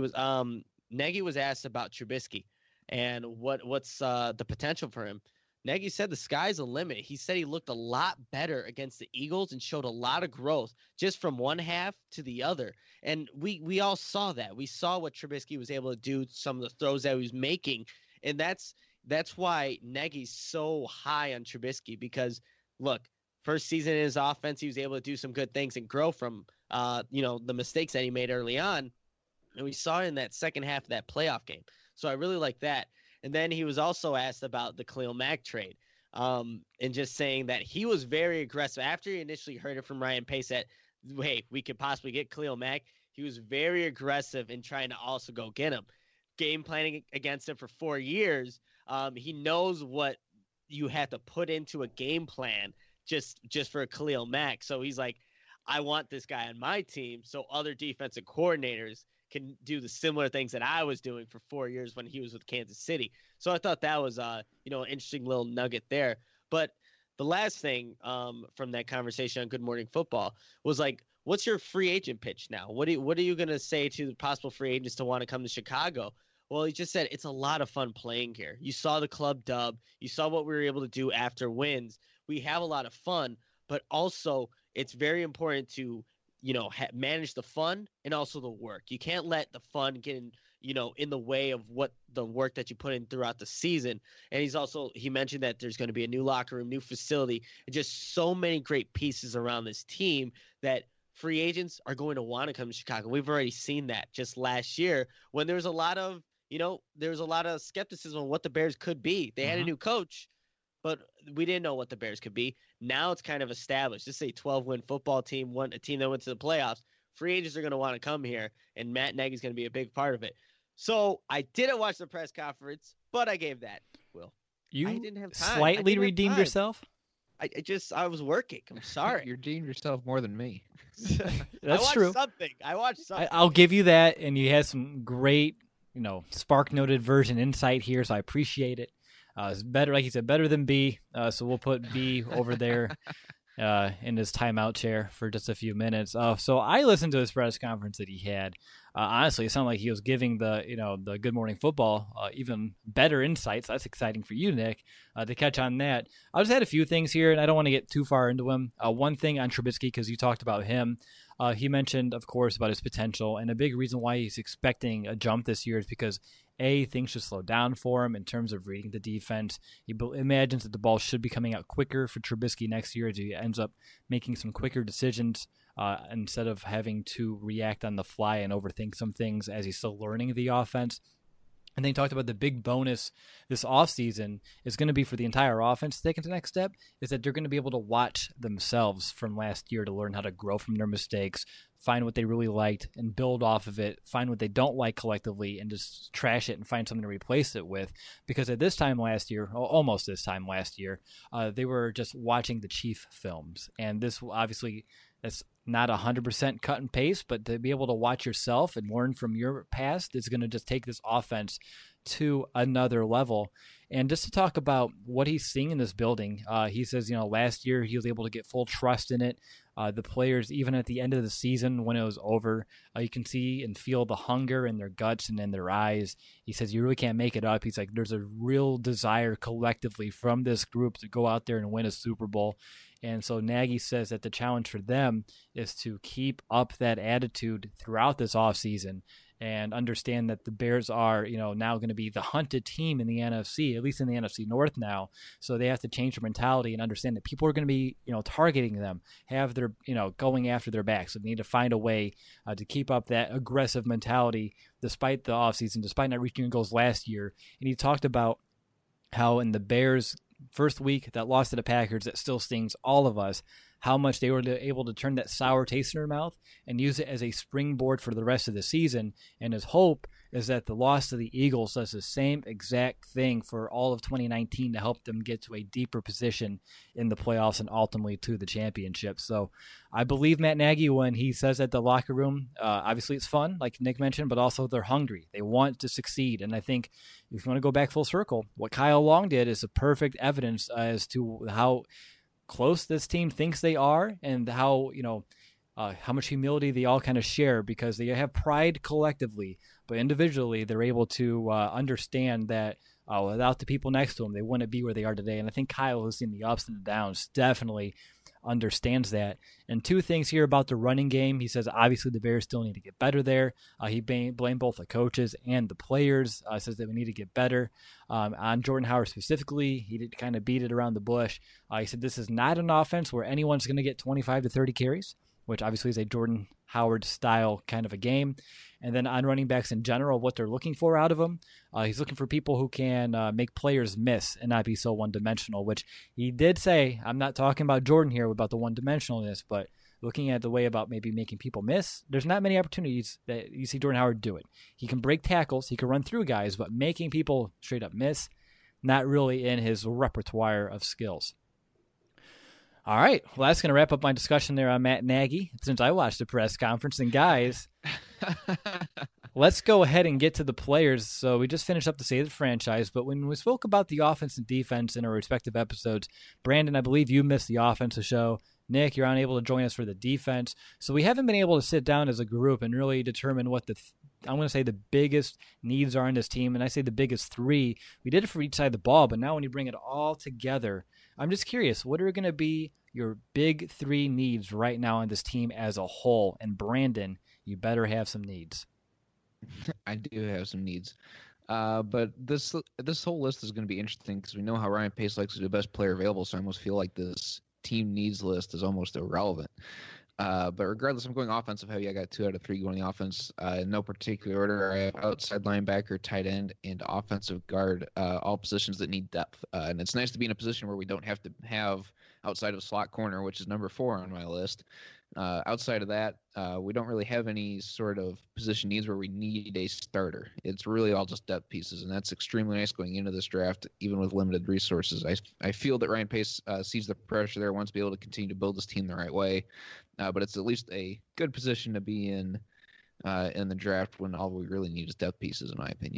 Nagy was asked about Trubisky and what's the potential for him. Nagy said the sky's the limit. He said he looked a lot better against the Eagles and showed a lot of growth just from one half to the other. And we all saw that. We saw what Trubisky was able to do, some of the throws that he was making. And that's why Nagy's so high on Trubisky because, look, first season in his offense, he was able to do some good things and grow from, the mistakes that he made early on. And we saw it in that second half of that playoff game. So I really like that. And then he was also asked about the Khalil Mack trade and just saying that he was very aggressive. After he initially heard it from Ryan Pace that, hey, we could possibly get Khalil Mack, he was very aggressive in trying to also go get him. Game planning against him for 4 years. He knows what you have to put into a game plan just for Khalil Mack. So he's like, I want this guy on my team so other defensive coordinators can do the similar things that I was doing for 4 years when he was with Kansas City. So I thought that was, an interesting little nugget there. But the last thing from that conversation on Good Morning Football was like, what's your free agent pitch now? What are you going to say to the possible free agents to want to come to Chicago? Well, he just said it's a lot of fun playing here. You saw the club dub. You saw what we were able to do after wins. We have a lot of fun, but also it's very important to manage the fun and also the work. You can't let the fun get in the way of what the work that you put in throughout the season. And he mentioned that there's going to be a new locker room, new facility, and just so many great pieces around this team that free agents are going to want to come to Chicago. We've already seen that just last year when there was a lot of, skepticism on what the Bears could be. They had a new coach, but we didn't know what the Bears could be. Now it's kind of established. This is a 12-win football team, a team that went to the playoffs. Free agents are going to want to come here, and Matt Nagy's going to be a big part of it. So I didn't watch the press conference, but I gave that, Will. You I didn't have time. Slightly redeemed yourself? I was working. I'm sorry. You redeemed yourself more than me. That's true. I watched something. I'll give you that, and you had some great, spark-noted version insight here, so I appreciate it. It's better, like you said, better than B, so we'll put B over there. in his timeout chair for just a few minutes. So I listened to his press conference that he had. Honestly, it sounded like he was giving the Good Morning Football even better insights. That's exciting for you, Nick, to catch on that. I just had a few things here, and I don't want to get too far into him. One thing on Trubisky, because you talked about him. He mentioned, of course, about his potential, and a big reason why he's expecting a jump this year is because things should slow down for him in terms of reading the defense. He imagines that the ball should be coming out quicker for Trubisky next year as he ends up making some quicker decisions instead of having to react on the fly and overthink some things as he's still learning the offense. And then he talked about the big bonus this offseason is going to be for the entire offense to take it to the next step, is that they're going to be able to watch themselves from last year to learn how to grow from their mistakes, find what they really liked and build off of it, find what they don't like collectively and just trash it and find something to replace it with. Because at this time last year, almost this time last year, they were just watching the Chief films. And this obviously, that's not 100% cut and paste, but to be able to watch yourself and learn from your past is going to just take this offense to another level. And just to talk about what he's seeing in this building, he says, last year he was able to get full trust in it. The players, even at the end of the season when it was over, you can see and feel the hunger in their guts and in their eyes. He says you really can't make it up. He's like, there's a real desire collectively from this group to go out there and win a Super Bowl. And so Nagy says that the challenge for them is to keep up that attitude throughout this offseason and understand that the Bears are, now going to be the hunted team in the NFC, at least in the NFC North now. So they have to change their mentality and understand that people are going to be, targeting them, have their, going after their back. So they need to find a way to keep up that aggressive mentality despite the offseason, despite not reaching goals last year. And he talked about how in the Bears' first week that lost to the Packers, that still stings all of us, how much they were able to turn that sour taste in their mouth and use it as a springboard for the rest of the season. And his hope is that the loss to the Eagles does the same exact thing for all of 2019 to help them get to a deeper position in the playoffs and ultimately to the championship. So I believe Matt Nagy when he says that the locker room, obviously it's fun, like Nick mentioned, but also they're hungry. They want to succeed. And I think if you want to go back full circle, what Kyle Long did is a perfect evidence as to how close this team thinks they are and how much humility they all kind of share, because they have pride collectively, but individually they're able to understand that without the people next to them, they wouldn't be where they are today. And I think Kyle, who's seen the ups and the downs, definitely understands that. And two things here about the running game. He says obviously the Bears still need to get better there. He blamed both the coaches and the players. Says that we need to get better. On Jordan Howard specifically, he did kind of beat it around the bush. He said this is not an offense where anyone's going to get 25 to 30 carries, which obviously is a Jordan Howard style kind of a game. And then on running backs in general, what they're looking for out of them, he's looking for people who can make players miss and not be so one-dimensional, which he did say, I'm not talking about Jordan here about the one-dimensionalness, but looking at the way about maybe making people miss, there's not many opportunities that you see Jordan Howard do it. He can break tackles, he can run through guys, but making people straight up miss, not really in his repertoire of skills. All right. Well, that's going to wrap up my discussion there on Matt Nagy since I watched the press conference. And guys, let's go ahead and get to the players. So we just finished up the State of the Franchise, but when we spoke about the offense and defense in our respective episodes, Brandon, I believe you missed the offensive show. Nick, you're unable to join us for the defense. So we haven't been able to sit down as a group and really determine what I'm going to say the biggest needs are in this team. And I say the biggest three. We did it for each side of the ball, but now when you bring it all together, I'm just curious, what are going to be your big three needs right now on this team as a whole? And Brandon, you better have some needs. I do have some needs. But this whole list is going to be interesting because we know how Ryan Pace likes to do the best player available, so I almost feel like this team needs list is almost irrelevant. But regardless, I'm going offensive heavy. I got 2 out of 3 going the offense. In no particular order, I have outside linebacker, tight end, and offensive guard, all positions that need depth. And it's nice to be in a position where we don't have to have outside of slot corner, which is number 4 on my list. Outside of that, we don't really have any sort of position needs where we need a starter. It's really all just depth pieces, and that's extremely nice going into this draft, even with limited resources. I feel that Ryan Pace sees the pressure there, wants to be able to continue to build this team the right way, but it's at least a good position to be in the draft when all we really need is depth pieces, in my opinion.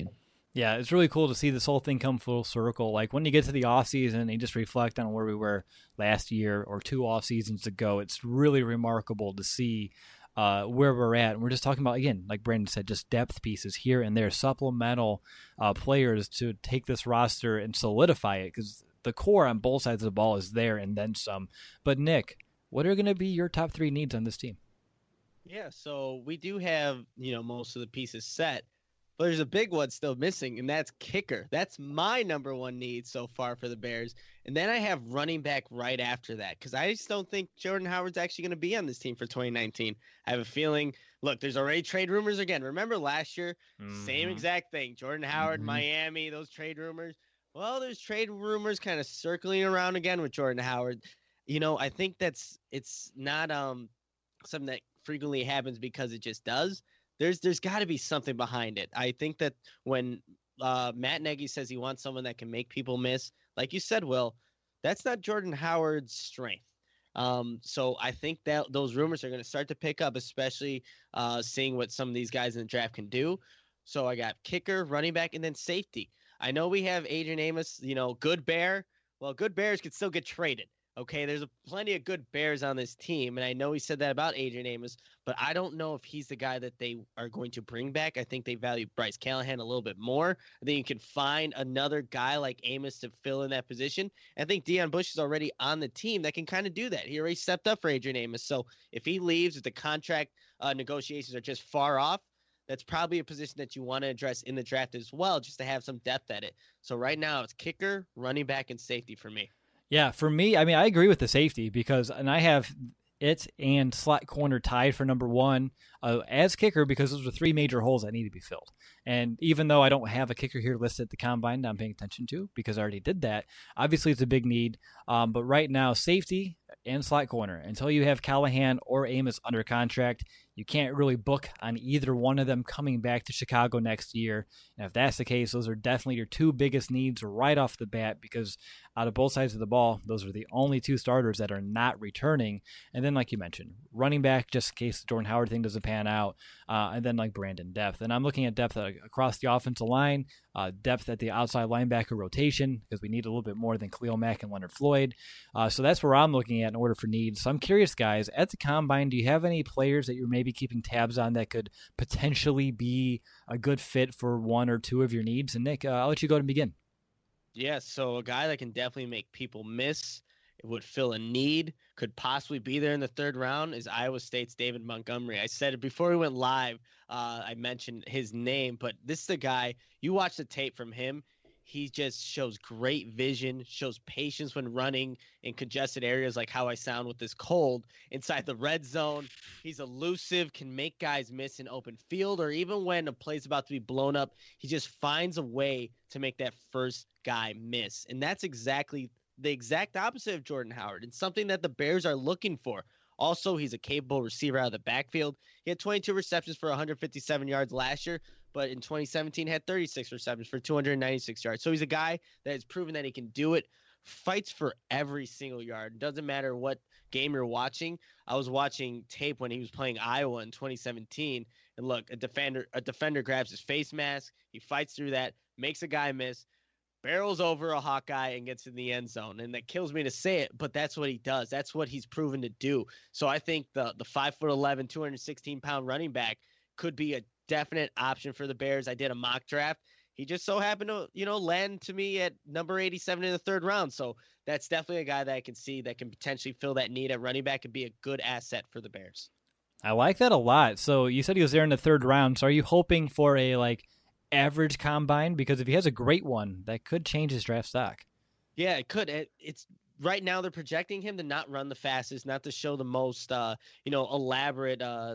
Yeah, it's really cool to see this whole thing come full circle. Like when you get to the off season and you just reflect on where we were last year or 2 off seasons ago, it's really remarkable to see where we're at. And we're just talking about, again, like Brandon said, just depth pieces here and there, supplemental players to take this roster and solidify it, because the core on both sides of the ball is there and then some. But Nick, what are going to be your top 3 needs on this team? Yeah, so we do have, most of the pieces set. But there's a big one still missing, and that's kicker. That's my number 1 need so far for the Bears. And then I have running back right after that, because I just don't think Jordan Howard's actually going to be on this team for 2019. I have a feeling, look, there's already trade rumors again. Remember last year, same exact thing. Jordan Howard, Miami, those trade rumors. Well, there's trade rumors kind of circling around again with Jordan Howard. I think it's not something that frequently happens because it just does. There's got to be something behind it. I think that when Matt Nagy says he wants someone that can make people miss, like you said, Will, that's not Jordan Howard's strength. So I think that those rumors are going to start to pick up, especially seeing what some of these guys in the draft can do. So I got kicker, running back, and then safety. I know we have Adrian Amos, good Bear. Well, good Bears could still get traded. Okay, there's plenty of good Bears on this team, and I know he said that about Adrian Amos, but I don't know if he's the guy that they are going to bring back. I think they value Bryce Callahan a little bit more. I think you can find another guy like Amos to fill in that position. I think Deion Bush is already on the team that can kind of do that. He already stepped up for Adrian Amos, so if he leaves, if the contract negotiations are just far off, that's probably a position that you want to address in the draft as well, just to have some depth at it. So right now it's kicker, running back, and safety for me. Yeah, for me, I mean, I agree with the safety and I have it and slot corner tied for number 1 as kicker, because those are 3 major holes that need to be filled. And even though I don't have a kicker here listed at the combine that I'm paying attention to, because I already did that, obviously it's a big need. But right now, safety and slot corner, until you have Callahan or Amos under contract, you can't really book on either one of them coming back to Chicago next year. And if that's the case, those are definitely your 2 biggest needs right off the bat, because out of both sides of the ball, those are the only 2 starters that are not returning. And then, like you mentioned, running back, just in case the Jordan Howard thing doesn't pan out. And then, like Brandon, depth. And I'm looking at depth across the offensive line, depth at the outside linebacker rotation, because we need a little bit more than Khalil Mack and Leonard Floyd. So that's where I'm looking at in order for needs. So I'm curious, guys, at the combine, do you have any players that you're maybe keeping tabs on that could potentially be a good fit for 1 or 2 of your needs? And Nick, I'll let you go and begin. Yeah, so a guy that can definitely make people miss, it would fill a need, could possibly be there in the 3rd round, is Iowa State's David Montgomery. I said it before we went live. I mentioned his name, but this is the guy, you watch the tape from him, he just shows great vision, shows patience when running in congested areas, like how I sound with this cold inside the red zone. He's elusive, can make guys miss in open field, or even when a play's about to be blown up, he just finds a way to make that first guy miss. And that's exactly the exact opposite of Jordan Howard, and something that the Bears are looking for. Also, he's a capable receiver out of the backfield. He had 22 receptions for 157 yards last year, but in 2017 had 36 receptions for 296 yards. So he's a guy that has proven that he can do it, fights for every single yard. Doesn't matter what game you're watching. I was watching tape when he was playing Iowa in 2017, and look, a defender grabs his face mask, he fights through that, makes a guy miss, barrels over a Hawkeye and gets in the end zone. And that kills me to say it, but that's what he does. That's what he's proven to do. So I think the 5'11", 216-pound running back could be a definite option for the Bears. I did a mock draft. He just so happened to, land to me at number 87 in the 3rd round. So that's definitely a guy that I can see that can potentially fill that need at running back and be a good asset for the Bears. I like that a lot. So you said he was there in the 3rd round. So are you hoping for a average combine? Because if he has a great one, that could change his draft stock. Yeah, it could. It's right now they're projecting him to not run the fastest, not to show the most, elaborate, at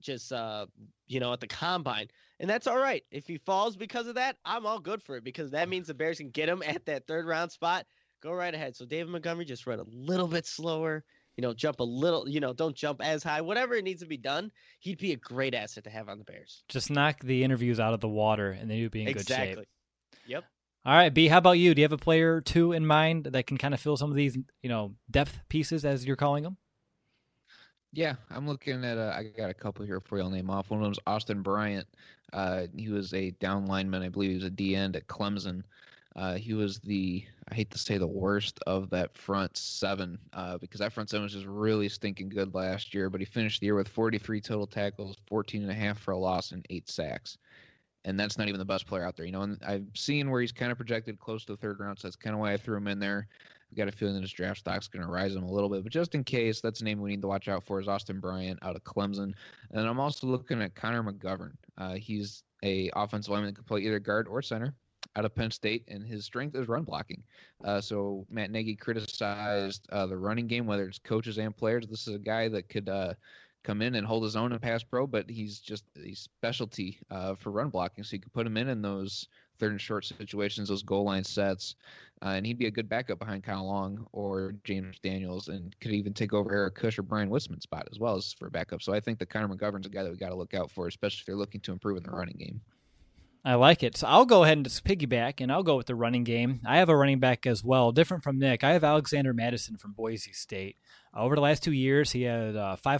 the combine. And that's all right. If he falls because of that, I'm all good for it, because that means the Bears can get him at that 3rd round spot. Go right ahead. So David Montgomery, just run a little bit slower, jump a little, don't jump as high, whatever it needs to be done. He'd be a great asset to have on the Bears. Just knock the interviews out of the water and then you'd be in good shape. Exactly. Yep. All right, B, how about you? Do you have a player or 2 in mind that can kind of fill some of these, depth pieces, as you're calling them? Yeah, I'm looking at I got a couple here for you. I'll name off. One of them's Austin Bryant. He was a down lineman. I believe he was a D end at Clemson. He was I hate to say the worst of that front seven, because that front seven was just really stinking good last year, but he finished the year with 43 total tackles, 14 and a half for a loss, and 8 sacks. And that's not even the best player out there, and I've seen where he's kind of projected close to the third round, so that's kind of why I threw him in there. I've got a feeling that his draft stock's going to rise him a little bit, but just in case, that's a name we need to watch out for is Austin Bryant out of Clemson. And I'm also looking at Connor McGovern. He's a offensive lineman that can play either guard or center out of Penn State, and his strength is run blocking. So Matt Nagy criticized the running game, whether it's coaches and players. This is a guy that could come in and hold his own in pass pro, but he's just a specialty for run blocking. So you could put him in those third and short situations, those goal line sets, and he'd be a good backup behind Kyle Long or James Daniels, and could even take over Eric Kush or Brian Wisman's spot as well as for a backup. So I think that Connor McGovern's a guy that we got to look out for, especially if they're looking to improve in the running game. I like it. So I'll go ahead and just piggyback, and I'll go with the running game. I have a running back as well, different from Nick. I have Alexander Madison from Boise State. Over the last 2 years, he had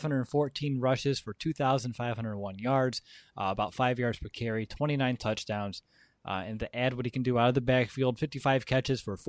514 rushes for 2,501 yards, about 5 yards per carry, 29 touchdowns. And to add what he can do out of the backfield, 55 catches for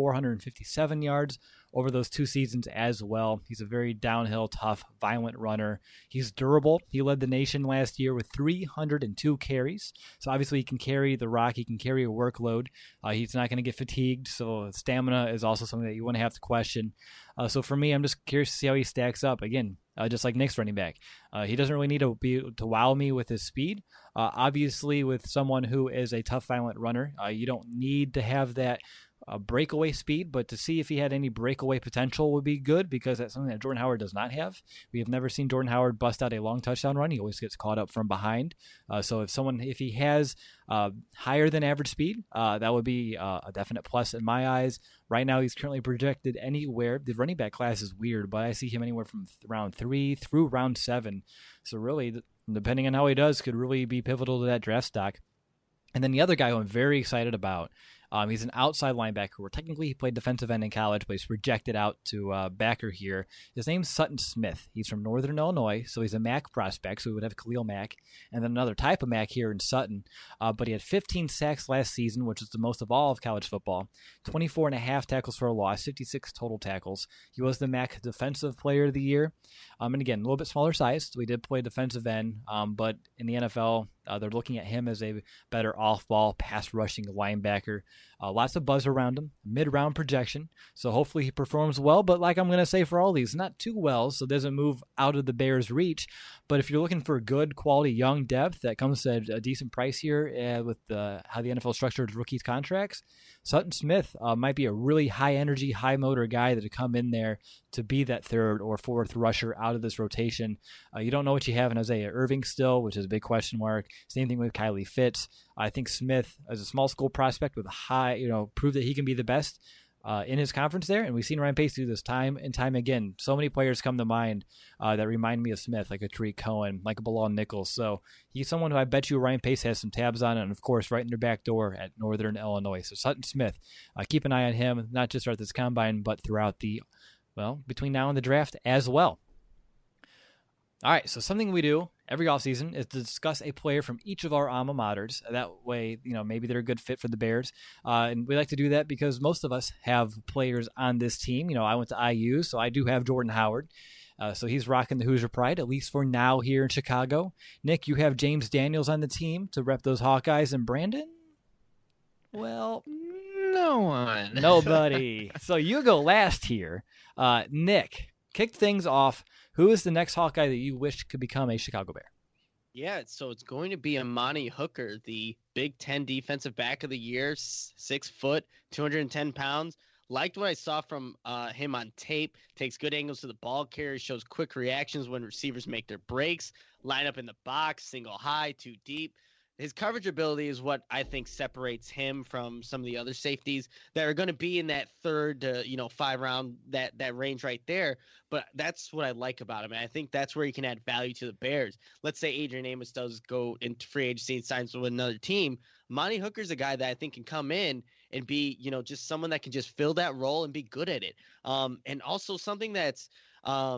457 yards over those 2 seasons as well. He's a very downhill, tough, violent runner. He's durable. He led the nation last year with 302 carries. So obviously he can carry the rock. He can carry a workload. He's not going to get fatigued. So stamina is also something that you want to have to question. So for me, I'm just curious to see how he stacks up. Again, just like Nick's running back. He doesn't really need to wow me with his speed. Obviously, with someone who is a tough, violent runner, you don't need to have that breakaway speed, but to see if he had any breakaway potential would be good, because that's something that Jordan Howard does not have. We have never seen Jordan Howard bust out a long touchdown run. He always gets caught up from behind. So if he has higher than average speed, that would be a definite plus in my eyes. Right now, he's currently projected anywhere. The running back class is weird, but I see him anywhere from round 3 through round 7. So really, depending on how he does, could really be pivotal to that draft stock. And then the other guy who I'm very excited about, he's an outside linebacker where technically he played defensive end in college, but he's projected out to backer here. His name's Sutton Smith. He's from Northern Illinois, so he's a MAC prospect, so we would have Khalil Mack, and then another type of Mack here in Sutton. But he had 15 sacks last season, which is the most of all of college football, 24 and a half tackles for a loss, 56 total tackles. He was the MAC Defensive Player of the Year. And again, a little bit smaller size, so he did play defensive end, but in the NFL, they're looking at him as a better off-ball, pass-rushing linebacker. Lots of buzz around him, mid-round projection, so hopefully he performs well. But like I'm going to say for all these, not too well, so doesn't move out of the Bears' reach. But if you're looking for good quality young depth that comes at a decent price here with how the NFL structured rookies contracts, Sutton Smith might be a really high-energy, high-motor guy that would come in there to be that third or fourth rusher out of this rotation. You don't know what you have in Isaiah Irving still, which is a big question mark. Same thing with Kylie Fitz. I think Smith, as a small school prospect with a high, proved that he can be the best in his conference there. And we've seen Ryan Pace do this time and time again. So many players come to mind that remind me of Smith, like a Tariq Cohen, like a Bilal Nichols. So he's someone who I bet you Ryan Pace has some tabs on, and of course, right in their back door at Northern Illinois. So Sutton Smith, keep an eye on him, not just at this combine, but throughout between now and the draft as well. All right, so something we do every offseason is to discuss a player from each of our alma maters. That way, maybe they're a good fit for the Bears. And we like to do that because most of us have players on this team. I went to IU, so I do have Jordan Howard. So he's rocking the Hoosier Pride, at least for now here in Chicago. Nick, you have James Daniels on the team to rep those Hawkeyes. And Brandon? Well, no one. Nobody. So you go last here. Nick, kick things off. Who is the next Hawkeye that you wish could become a Chicago Bear? Yeah, so it's going to be Amani Hooker, the Big Ten Defensive Back of the Year, 6 foot, 210 pounds. Liked what I saw from him on tape. Takes good angles to the ball carrier, shows quick reactions when receivers make their breaks, line up in the box, single high, too deep. His coverage ability is what I think separates him from some of the other safeties that are going to be in that 3rd to 5 round, that range right there. But that's what I like about him. And I think that's where he can add value to the Bears. Let's say Adrian Amos does go into free agency and signs with another team. Monty Hooker's a guy that I think can come in and be, just someone that can just fill that role and be good at it. And also something that's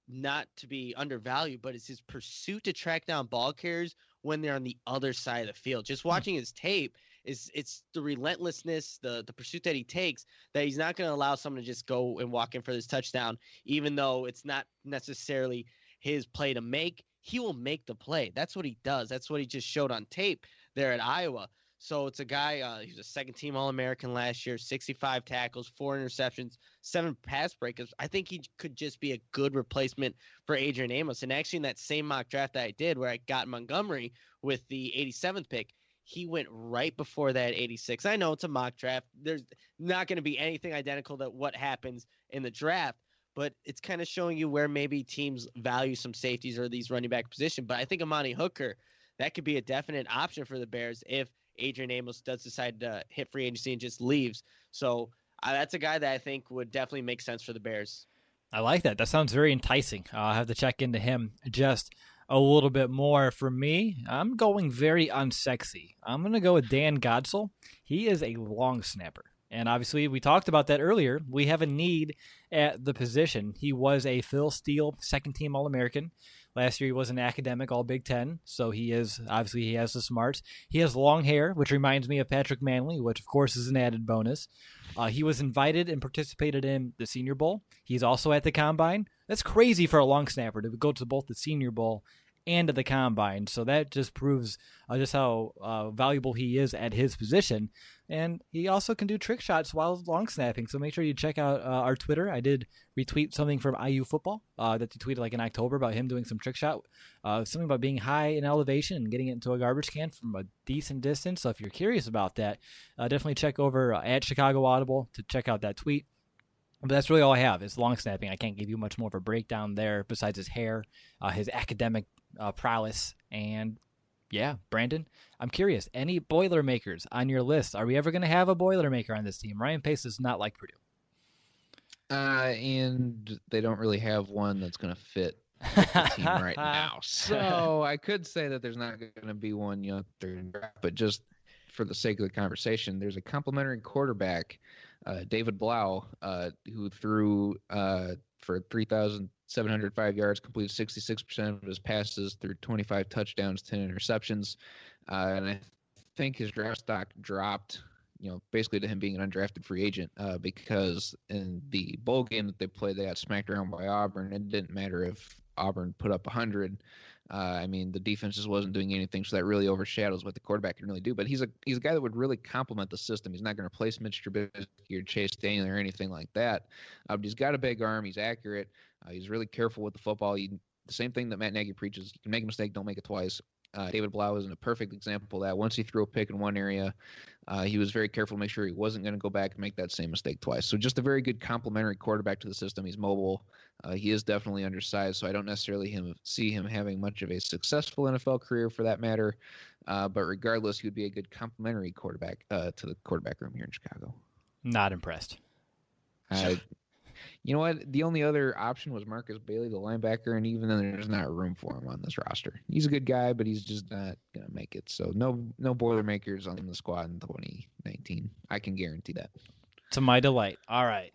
not to be undervalued, but it's his pursuit to track down ball carriers when they're on the other side of the field. Just watching his tape, it's the relentlessness, the pursuit that he takes, that he's not going to allow someone to just go and walk in for this touchdown, even though it's not necessarily his play to make. He will make the play. That's what he does. That's what he just showed on tape there at Iowa. So it's a guy, he was a second-team All-American last year, 65 tackles, 4 interceptions, 7 pass breakups. I think he could just be a good replacement for Adrian Amos. And actually in that same mock draft that I did where I got Montgomery with the 87th pick, he went right before that 86. I know it's a mock draft. There's not going to be anything identical to what happens in the draft, but it's kind of showing you where maybe teams value some safeties or these running back position. But I think Amani Hooker, that could be a definite option for the Bears if Adrian Amos does decide to hit free agency and just leaves. So that's a guy that I think would definitely make sense for the Bears. I like that. That sounds very enticing. I'll have to check into him just a little bit more. For me, I'm going very unsexy. I'm going to go with Dan Godsil. He is a long snapper. And obviously, we talked about that earlier. We have a need at the position. He was a Phil Steele second-team All-American. Last year, he was an academic All-Big Ten, so he has the smarts. He has long hair, which reminds me of Patrick Manley, which, of course, is an added bonus. He was invited and participated in the Senior Bowl. He's also at the Combine. That's crazy for a long snapper to go to both the Senior Bowl and to the Combine. So that just proves just how valuable he is at his position. And he also can do trick shots while long snapping. So make sure you check out our Twitter. I did retweet something from IU football that he tweeted like in October about him doing some trick shot, something about being high in elevation and getting it into a garbage can from a decent distance. So if you're curious about that, definitely check over at Chicago Audible to check out that tweet. But that's really all I have is long snapping. I can't give you much more of a breakdown there besides his hair, his academic prowess, and yeah, Brandon, I'm curious. Any Boilermakers on your list? Are we ever going to have a Boilermaker on this team? Ryan Pace is not like Purdue. And they don't really have one that's going to fit the team right now. So I could say that there's not going to be one, but just for the sake of the conversation, there's a complimentary quarterback, David Blau, who threw for 3,705 yards, completed 66% of his passes, threw 25 touchdowns, 10 interceptions. And I think his draft stock dropped, basically to him being an undrafted free agent because in the bowl game that they played, they got smacked around by Auburn. It didn't matter if Auburn put up 100. The defense just wasn't doing anything, so that really overshadows what the quarterback can really do. But he's a guy that would really complement the system. He's not going to replace Mitch Trubisky or Chase Daniel or anything like that. But he's got a big arm. He's accurate. He's really careful with the football. The same thing that Matt Nagy preaches: you can make a mistake, don't make it twice. David Blau is a perfect example of that. Once he threw a pick in one area, he was very careful to make sure he wasn't going to go back and make that same mistake twice. So just a very good complementary quarterback to the system. He's mobile. He is definitely undersized, so I don't necessarily see him having much of a successful NFL career for that matter. But regardless, he would be a good complementary quarterback to the quarterback room here in Chicago. Not impressed. You know what? The only other option was Marcus Bailey, the linebacker, and even then there's not room for him on this roster. He's a good guy, but he's just not going to make it. So no Boilermakers on the squad in 2019. I can guarantee that. To my delight. All right.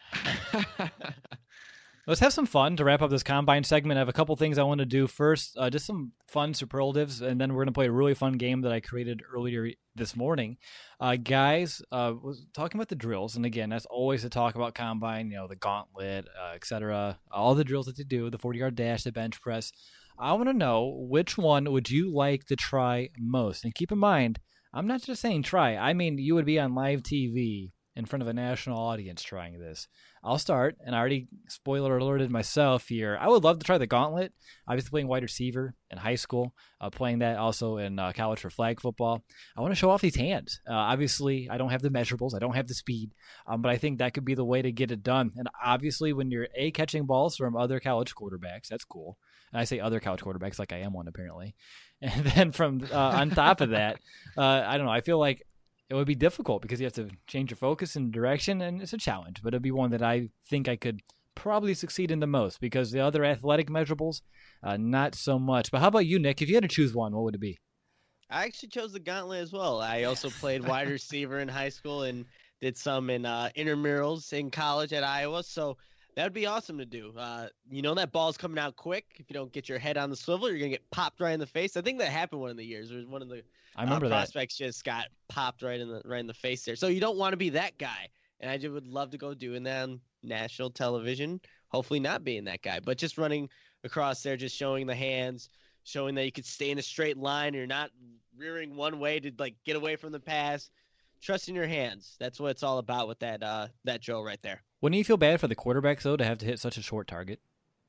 Let's have some fun to wrap up this Combine segment. I have a couple things I want to do. First, just some fun superlatives, and then we're going to play a really fun game that I created earlier this morning. Guys, was talking about the drills, and again, that's always to talk about Combine, the gauntlet, etc., all the drills that they do, the 40-yard dash, the bench press. I want to know, which one would you like to try most? And keep in mind, I'm not just saying try. I mean, you would be on live TV in front of a national audience trying this. I'll start, and I already spoiler alerted myself here. I would love to try the gauntlet. I was playing wide receiver in high school, playing that also in college for flag football. I want to show off these hands. Obviously, I don't have the measurables. I don't have the speed, but I think that could be the way to get it done. And obviously, when you're catching balls from other college quarterbacks, that's cool. And I say other college quarterbacks like I am one apparently. And then from on top of that, I don't know. I feel like it would be difficult because you have to change your focus and direction, and it's a challenge. But it'd be one that I think I could probably succeed in the most because the other athletic measurables, not so much. But how about you, Nick? If you had to choose one, what would it be? I actually chose the gauntlet as well. I also played wide receiver in high school and did some in intramurals in college at Iowa. So That would be awesome to do. That ball's coming out quick. If you don't get your head on the swivel, you're gonna get popped right in the face. I think that happened one of the years. There was one of the I remember that. prospects just got popped right in the face there. So you don't want to be that guy. And I just would love to go doing that on national television. Hopefully not being that guy, but just running across there, just showing the hands, showing that you could stay in a straight line. You're not rearing one way to like get away from the pass. Trusting your hands. That's what it's all about with that drill right there. Wouldn't you feel bad for the quarterbacks, though, to have to hit such a short target?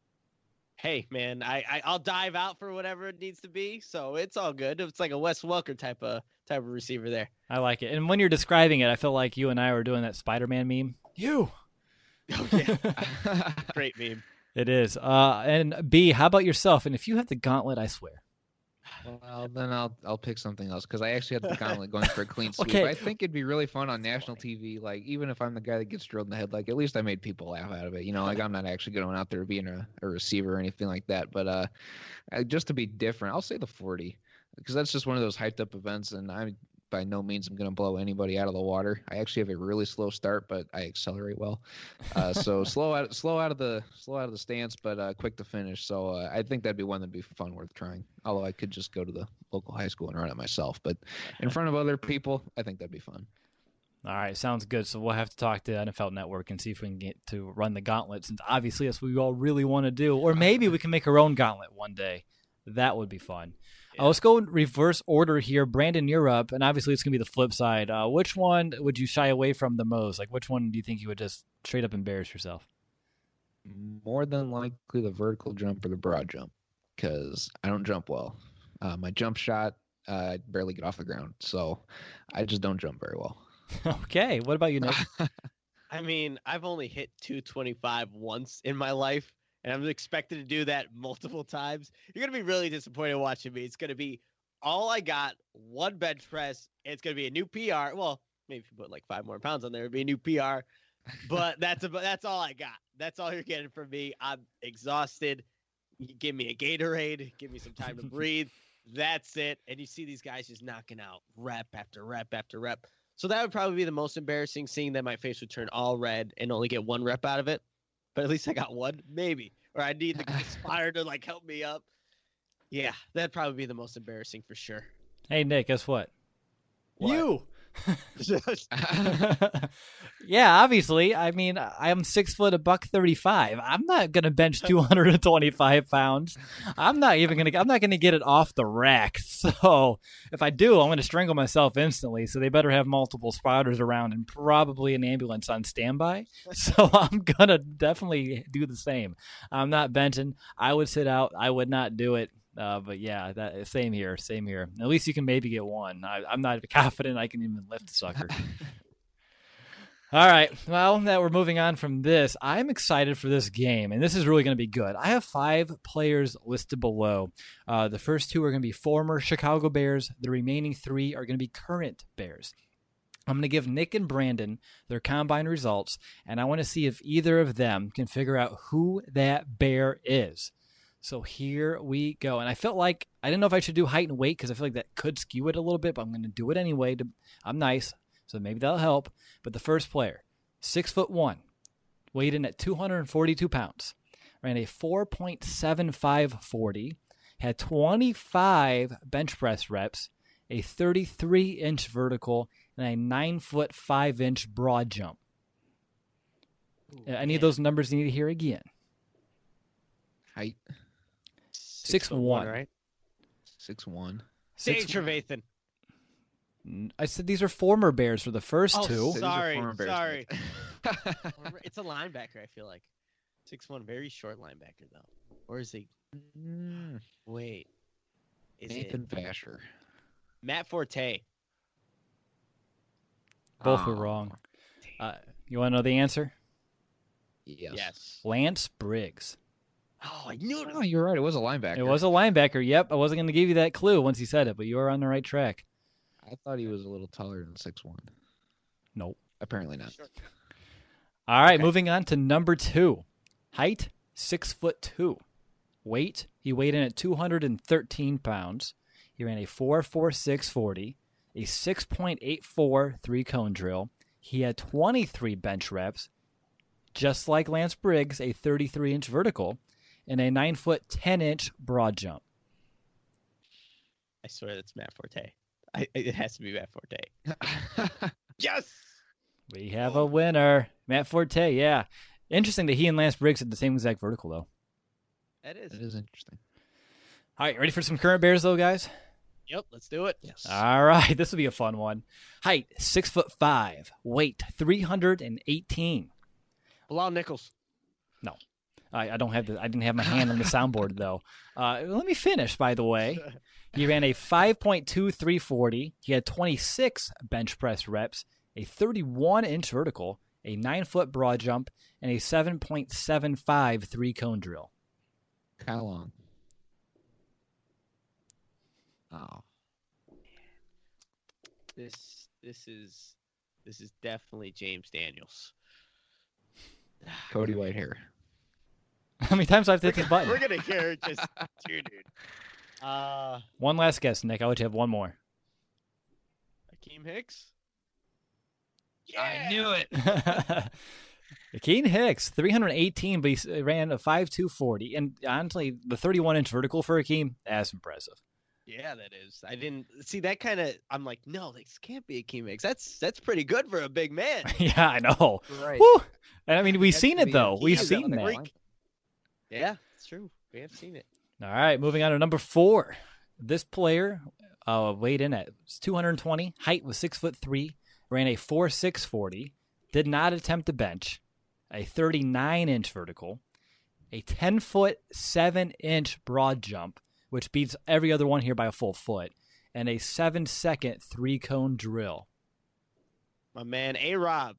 Hey, man, I'll dive out for whatever it needs to be, so it's all good. It's like a Wes Welker type of receiver there. I like it. And when you're describing it, I feel like you and I were doing that Spider-Man meme. You. Oh, yeah. Great meme. It is. And B, how about yourself? And if you have the gauntlet, I swear. Well, then I'll pick something else because I actually had the gauntlet going for a clean sweep. Okay. I think it'd be really fun on national TV. Like even if I'm the guy that gets drilled in the head, like at least I made people laugh out of it. Like I'm not actually going out there being a receiver or anything like that. But just to be different, I'll say the 40 because that's just one of those hyped up events, and I by no means I'm going to blow anybody out of the water. I actually have a really slow start, but I accelerate well. So slow out of the stance, but quick to finish. So I think that'd be one that'd be fun, worth trying. Although I could just go to the local high school and run it myself, but in front of other people, I think that'd be fun. All right, sounds good. So we'll have to talk to NFL Network and see if we can get to run the gauntlet, since obviously that's what we all really want to do. Or maybe we can make our own gauntlet one day. That would be fun. Yeah. Let's go in reverse order here. Brandon, you're up, and obviously it's going to be the flip side. Which one would you shy away from the most? Like, which one do you think you would just straight up embarrass yourself? More than likely the vertical jump or the broad jump, because I don't jump well. My jump shot, I barely get off the ground, so I just don't jump very well. Okay, what about you, Nick? I mean, I've only hit 225 once in my life, and I'm expected to do that multiple times. You're going to be really disappointed watching me. It's going to be all I got, one bench press, and it's going to be a new PR. Well, maybe if you put like 5 more pounds on there, it'd be a new PR. But that's all I got. That's all you're getting from me. I'm exhausted. You give me a Gatorade. Give me some time to breathe. That's it. And you see these guys just knocking out rep after rep after rep. So that would probably be the most embarrassing, seeing that my face would turn all red and only get 1 rep out of it. But at least I got 1, maybe. Or I need the Aspire to like help me up. Yeah, that'd probably be the most embarrassing for sure. Hey, Nick, guess what? What? You. Yeah, obviously. I mean, I'm 6 foot, $135. I'm not gonna bench 225 pounds. I'm not gonna get it off the rack. So if I do, I'm gonna strangle myself instantly. So they better have multiple spotters around and probably an ambulance on standby. So I'm gonna definitely do the same. I'm not benching. I would sit out. I would not do it. But yeah, that same here. At least you can maybe get 1. I'm not confident I can even lift the sucker. All right. Well, now we're moving on from this. I'm excited for this game, and this is really going to be good. I have 5 players listed below. The first 2 are going to be former Chicago Bears. The remaining 3 are going to be current Bears. I'm going to give Nick and Brandon their combine results, and I want to see if either of them can figure out who that Bear is. So here we go. And I felt like I didn't know if I should do height and weight because I feel like that could skew it a little bit, but I'm going to do it anyway. I'm nice, so maybe that'll help. But the first player, 6'1", weighed in at 242 pounds, ran a 4.75 40, had 25 bench press reps, a 33-inch vertical, and a 9-foot 5-inch broad jump. Any of those numbers you need to hear again? Height. 6'1", right? 6'1". Dave Trevathan. I said these are former Bears for the first 2. Sorry. It's a linebacker, I feel like. 6'1", very short linebacker, though. Or is he? Wait. Nathan Vasher. Matt Forte. Both were wrong. You want to know the answer? Yes. Lance Briggs. Oh, I knew it. Oh, you're right. It was a linebacker. It was a linebacker. Yep. I wasn't going to give you that clue once you said it, but you were on the right track. I thought he was a little taller than 6'1". Nope. Apparently not. Sure. All right, Moving on to number 2. Height, 6'2". Weight, he weighed in at 213 pounds. He ran a 4.46 40, a 6.84 3-cone drill. He had 23 bench reps, just like Lance Briggs, a 33-inch vertical, and a 9-foot 10-inch broad jump. I swear that's Matt Forte. It has to be Matt Forte. Yes! We have a winner. Matt Forte, yeah. Interesting that he and Lance Briggs had the same exact vertical, though. That is. It is interesting. All right, ready for some current Bears, though, guys? Yep, let's do it. Yes. All right, this will be a fun one. Height, 6'5", weight 318. Bilal Nichols. No, I don't have I didn't have my hand on the soundboard though. Let me finish. By the way, he ran a 5.2 340. He had 26 bench press reps, a 31-inch vertical, a 9-foot broad jump, and a 7.75 3-cone drill. How long? Oh, This is definitely James Daniels. Cody Whitehair. How many times do I have to hit this button? We're gonna hear just dude. One last guess, Nick. I'll let you have one more. Akeem Hicks. I knew it. Akeem Hicks, 318, but he ran a 5.2 40. And honestly, the 31-inch vertical for Akeem, that's impressive. Yeah, that is. I didn't see that kind of. I'm like, no, this can't be Akeem Hicks. That's pretty good for a big man. Yeah, I know. Right. Woo! And I mean, we've That's seen to it, be though. a We've key seen on the that. break. Yeah, it's true. We have seen it. All right, moving on to number 4. This player weighed in at 220, height was 6'3", ran a 4.6 40, did not attempt the bench, a 39-inch vertical, a 10-foot 7-inch broad jump, which beats every other one here by a full foot, and a 7-second 3-cone drill. My man, A-Rob.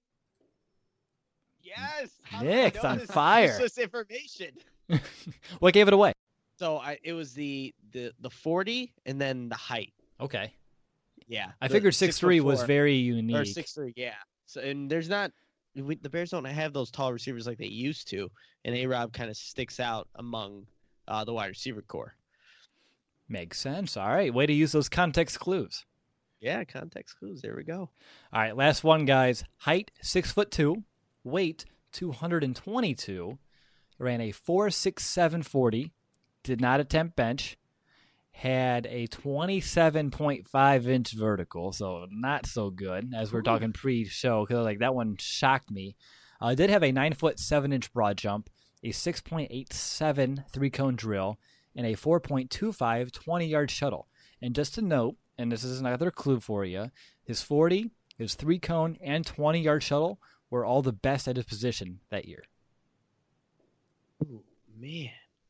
Yes, how did I Nick's know on this fire. useless information. What gave it away? So it was the 40 and then the height. Okay. Yeah, I the figured 6'3" was 6'4" very or unique. 6'3". Yeah. So and there's not the Bears don't have those tall receivers like they used to, and A-Rob kind of sticks out among the wide receiver core. Makes sense. All right, way to use those context clues. Yeah, context clues. There we go. All right, last one, guys. Height 6'2", weight 222, ran a 4.67 40, did not attempt bench, had a 27.5-inch vertical, so not so good as we're talking pre-show, because like that one shocked me. Did have a 9-foot 7-inch broad jump, a 6.87 3-cone drill, and a 4.25 20-yard shuttle. And just to note, and this is another clue for you, his 40, his 3-cone, and 20-yard shuttle were all the best at his position that year. Ooh, man.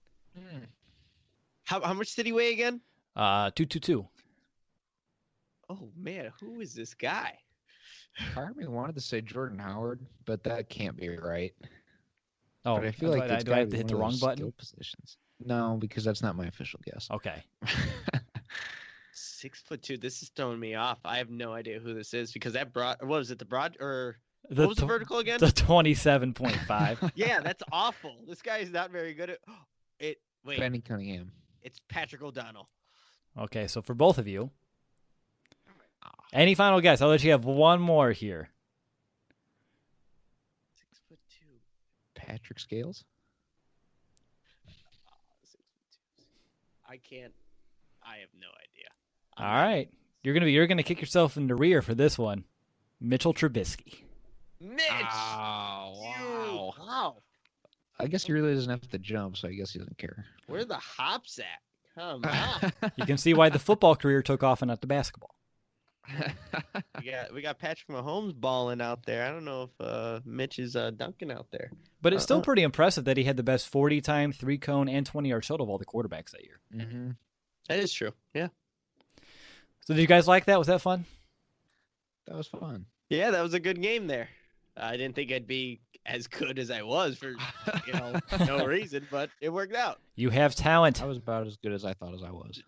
How much did he weigh again? 222. Oh man, who is this guy? Part of me wanted to say Jordan Howard, but that can't be right. Oh, But I feel like it's do I have gotta to hit be the one of wrong those button? skill positions. No, because that's not my official guess. Okay. 6'2". This is throwing me off. I have no idea who this is because that broad. What was it? The broad or The what was the tw- vertical again? The 27.5. Yeah, that's awful. This guy is not very good at it. Wait, Benny Cunningham. it's Patrick O'Donnell. Okay, so for both of you, any final guess? I'll let you have one more here. 6'2". Patrick Scales. 6'2". I can't. I have no idea. All right, you're gonna kick yourself in the rear for this one. Mitchell Trubisky. Mitch. Oh, Dude, wow. I guess he really doesn't have to jump, so I guess he doesn't care. Where are the hops at? Come on. You can see why the football career took off and not the basketball. we got Patrick Mahomes balling out there. I don't know if Mitch is dunking out there. But it's still pretty impressive that he had the best 40-time, 3-cone, and 20-yard shuttle of all the quarterbacks that year. Mm-hmm. That is true. Yeah. So did you guys like that? Was that fun? That was fun. Yeah, that was a good game there. I didn't think I'd be as good as I was for no reason, but it worked out. You have talent. I was about as good as I thought as I was.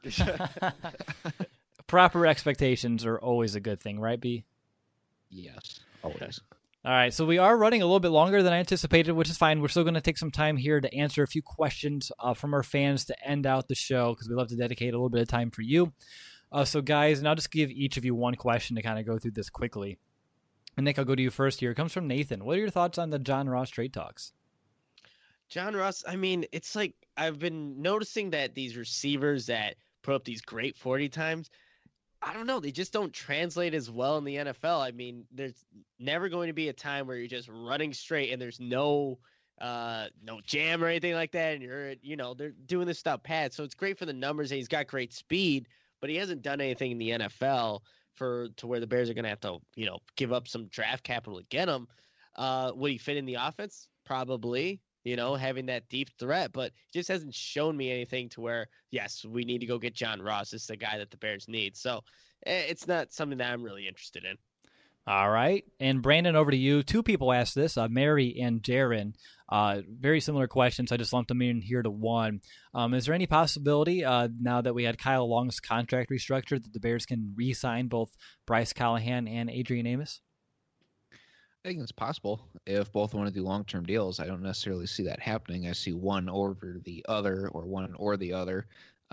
Proper expectations are always a good thing, right, B? Yes, always. All right, so we are running a little bit longer than I anticipated, which is fine. We're still going to take some time here to answer a few questions from our fans to end out the show because we love to dedicate a little bit of time for you. So, guys, and I'll just give each of you one question to kind of go through this quickly. And Nick, I'll go to you first here. It comes from Nathan. What are your thoughts on the John Ross trade talks? John Ross, I mean, it's like I've been noticing that these receivers that put up these great 40 times, I don't know, they just don't translate as well in the NFL. I mean, there's never going to be a time where you're just running straight and there's no jam or anything like that, and they're doing this stuff pad. So it's great for the numbers, and he's got great speed, but he hasn't done anything in the NFL to where the Bears are going to have to, give up some draft capital to get him. Would he fit in the offense? Probably, having that deep threat, but he just hasn't shown me anything to where, yes, we need to go get John Ross. This is the guy that the Bears need. So it's not something that I'm really interested in. All right. And Brandon, over to you. Two people asked this, Mary and Jaron. Very similar questions. I just lumped them in here to one. Is there any possibility, now that we had Kyle Long's contract restructured, that the Bears can re-sign both Bryce Callahan and Adrian Amos? I think it's possible if both want to do long-term deals. I don't necessarily see that happening. I see one over the other or one or the other.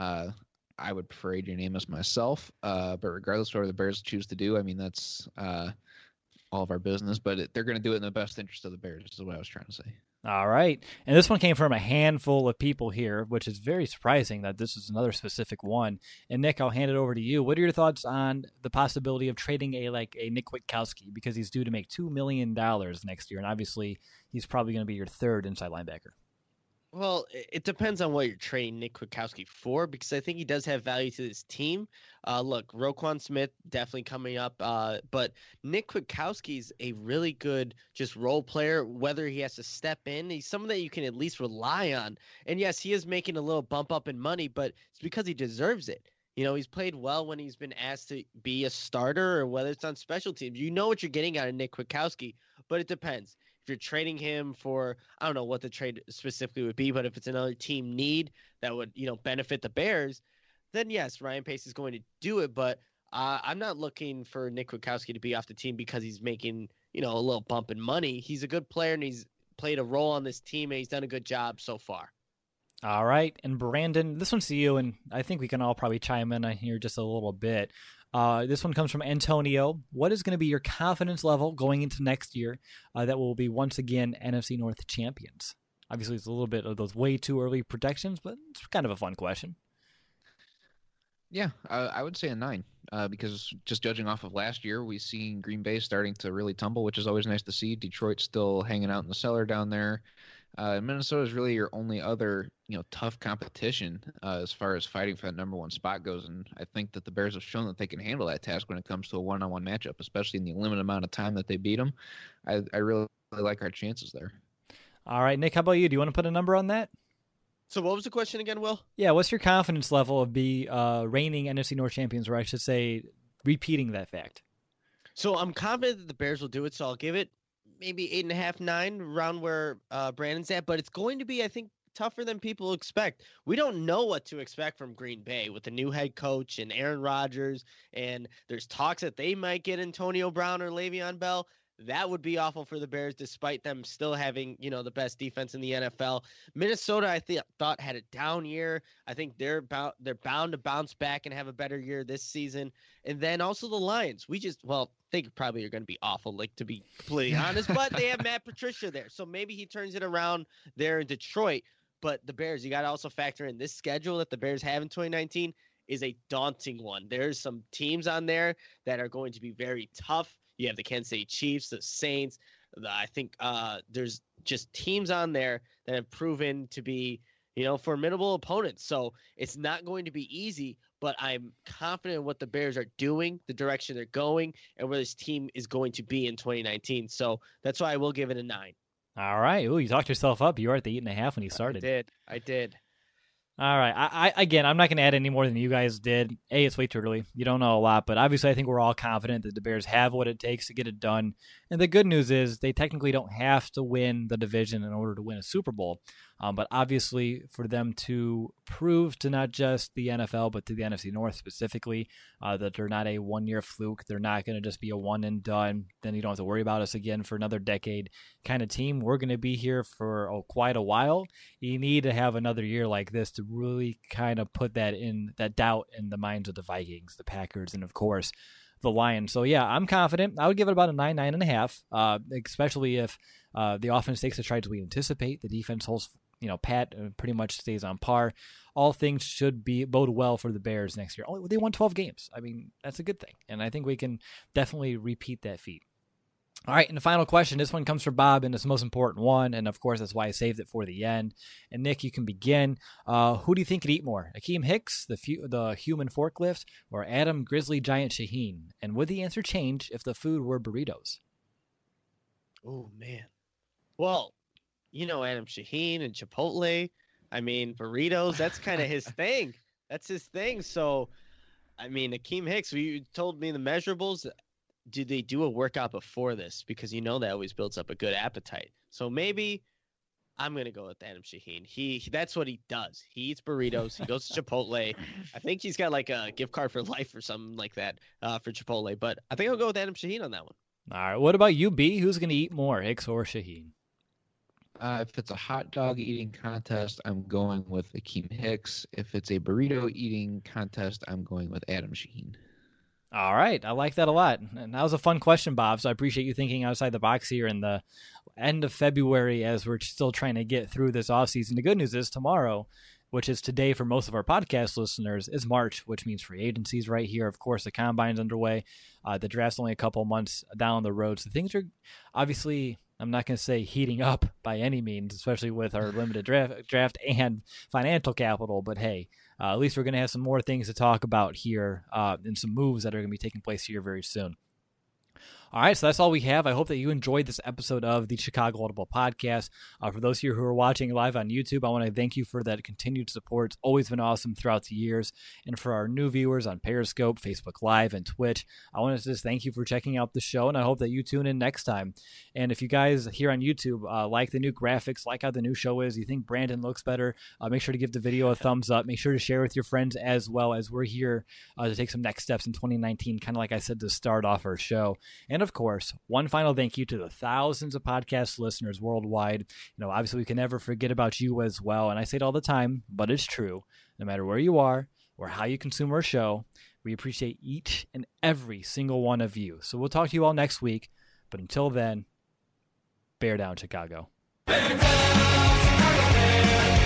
I would prefer Adrian Amos myself, but regardless of what the Bears choose to do, I mean, that's all of our business, but they're going to do it in the best interest of the Bears, is what I was trying to say. All right. And this one came from a handful of people here, which is very surprising that this is another specific one. And Nick, I'll hand it over to you. What are your thoughts on the possibility of trading a Nick Kwiatkowski, because he's due to make $2 million next year, and obviously he's probably going to be your third inside linebacker? Well, it depends on what you're trading Nick Kwiatkowski for, because I think he does have value to this team. Look, Roquan Smith definitely coming up, but Nick Kwiatkowski is a really good just role player, whether he has to step in. He's someone that you can at least rely on. And yes, he is making a little bump up in money, but it's because he deserves it. He's played well when he's been asked to be a starter, or whether it's on special teams. You know what you're getting out of Nick Kwiatkowski, but it depends. If you're trading him for, I don't know what the trade specifically would be, but if it's another team need that would, benefit the Bears, then yes, Ryan Pace is going to do it. But I'm not looking for Nick Kwiatkowski to be off the team because he's making, a little bump in money. He's a good player, and he's played a role on this team, and he's done a good job so far. All right. And Brandon, this one's to you, and I think we can all probably chime in on here just a little bit. This one comes from Antonio. What is going to be your confidence level going into next year that will be once again NFC North champions? Obviously, it's a little bit of those way too early predictions, but it's kind of a fun question. Yeah, I would say a 9, because just judging off of last year, we've seen Green Bay starting to really tumble, which is always nice to see. Detroit's still hanging out in the cellar down there. Minnesota is really your only other, tough competition as far as fighting for that number one spot goes. And I think that the Bears have shown that they can handle that task when it comes to a one-on-one matchup, especially in the limited amount of time that they beat them. I really like our chances there. All right, Nick, how about you? Do you want to put a number on that? So what was the question again, Will? Yeah, what's your confidence level of reigning NFC North champions, or I should say repeating that fact? So I'm confident that the Bears will do it, so I'll give it maybe 8.5, 9, around where Brandon's at, but it's going to be, I think, tougher than people expect. We don't know what to expect from Green Bay with the new head coach and Aaron Rodgers, and there's talks that they might get Antonio Brown or Le'Veon Bell. That would be awful for the Bears, despite them still having, the best defense in the NFL. Minnesota, I thought had a down year. I think they're bound to bounce back and have a better year this season. And then also the Lions. They probably are going to be awful, to be completely honest, but they have Matt Patricia there. So maybe he turns it around there in Detroit. But the Bears, you got to also factor in this schedule that the Bears have in 2019 is a daunting one. There's some teams on there that are going to be very tough. You have the Kansas City Chiefs, the Saints. I think there's just teams on there that have proven to be, formidable opponents. So it's not going to be easy, but I'm confident in what the Bears are doing, the direction they're going, and where this team is going to be in 2019. So that's why I will give it a 9. All right. Ooh, you talked yourself up. You were at the 8.5 when you started. I did. All right. I'm not going to add any more than you guys did. It's way too early. You don't know a lot, but obviously I think we're all confident that the Bears have what it takes to get it done. And the good news is they technically don't have to win the division in order to win a Super Bowl. But obviously for them to prove to not just the NFL, but to the NFC North specifically, that they're not a one-year fluke. They're not going to just be a one and done. Then you don't have to worry about us again for another decade kind of team. We're going to be here for quite a while. You need to have another year like this to really kind of put that doubt in the minds of the Vikings, the Packers, and of course the Lions. So yeah, I'm confident. I would give it about a 9, 9.5, especially if the offense takes the strides we anticipate. The defense holds, pat pretty much stays on par. All things should bode well for the Bears next year. They won 12 games. I mean, that's a good thing. And I think we can definitely repeat that feat. All right, and the final question. This one comes from Bob, and it's the most important one. And, of course, that's why I saved it for the end. And, Nick, you can begin. Who do you think could eat more, Akeem Hicks, the human forklift, or Adam Grizzly Giant Shaheen? And would the answer change if the food were burritos? Oh, man. Well, Adam Shaheen and Chipotle. I mean, burritos, that's kind of his thing. That's his thing. So, I mean, Akeem Hicks, you told me the measurables. Do they do a workout before this? Because that always builds up a good appetite. So maybe I'm going to go with Adam Shaheen. That's what he does. He eats burritos. He goes to Chipotle. I think he's got like a gift card for life or something like that for Chipotle. But I think I'll go with Adam Shaheen on that one. All right. What about you, B? Who's going to eat more, Hicks or Shaheen? If it's a hot dog eating contest, I'm going with Akeem Hicks. If it's a burrito eating contest, I'm going with Adam Shaheen. All right. I like that a lot. And that was a fun question, Bob. So I appreciate you thinking outside the box here in the end of February as we're still trying to get through this offseason. The good news is tomorrow, which is today for most of our podcast listeners, is March, which means free agency's right here. Of course, the combine's underway. The draft's only a couple months down the road. So things are obviously, I'm not going to say heating up by any means, especially with our limited draft and financial capital. But hey, at least we're going to have some more things to talk about here and some moves that are going to be taking place here very soon. All right, so that's all we have. I hope that you enjoyed this episode of the Chicago Audible Podcast. For those of you who are watching live on YouTube, I want to thank you for that continued support. It's always been awesome throughout the years. And for our new viewers on Periscope, Facebook Live, and Twitch, I want to just thank you for checking out the show, and I hope that you tune in next time. And if you guys here on YouTube like the new graphics, like how the new show is, you think Brandon looks better, make sure to give the video a thumbs up. Make sure to share with your friends as well, as we're here to take some next steps in 2019, kind of like I said to start off our show. And of course, one final thank you to the thousands of podcast listeners worldwide. Obviously we can never forget about you as well. And I say it all the time, but it's true. No matter where you are or how you consume our show, we appreciate each and every single one of you. So we'll talk to you all next week. But until then, bear down, Chicago. Bear down, Chicago, bear.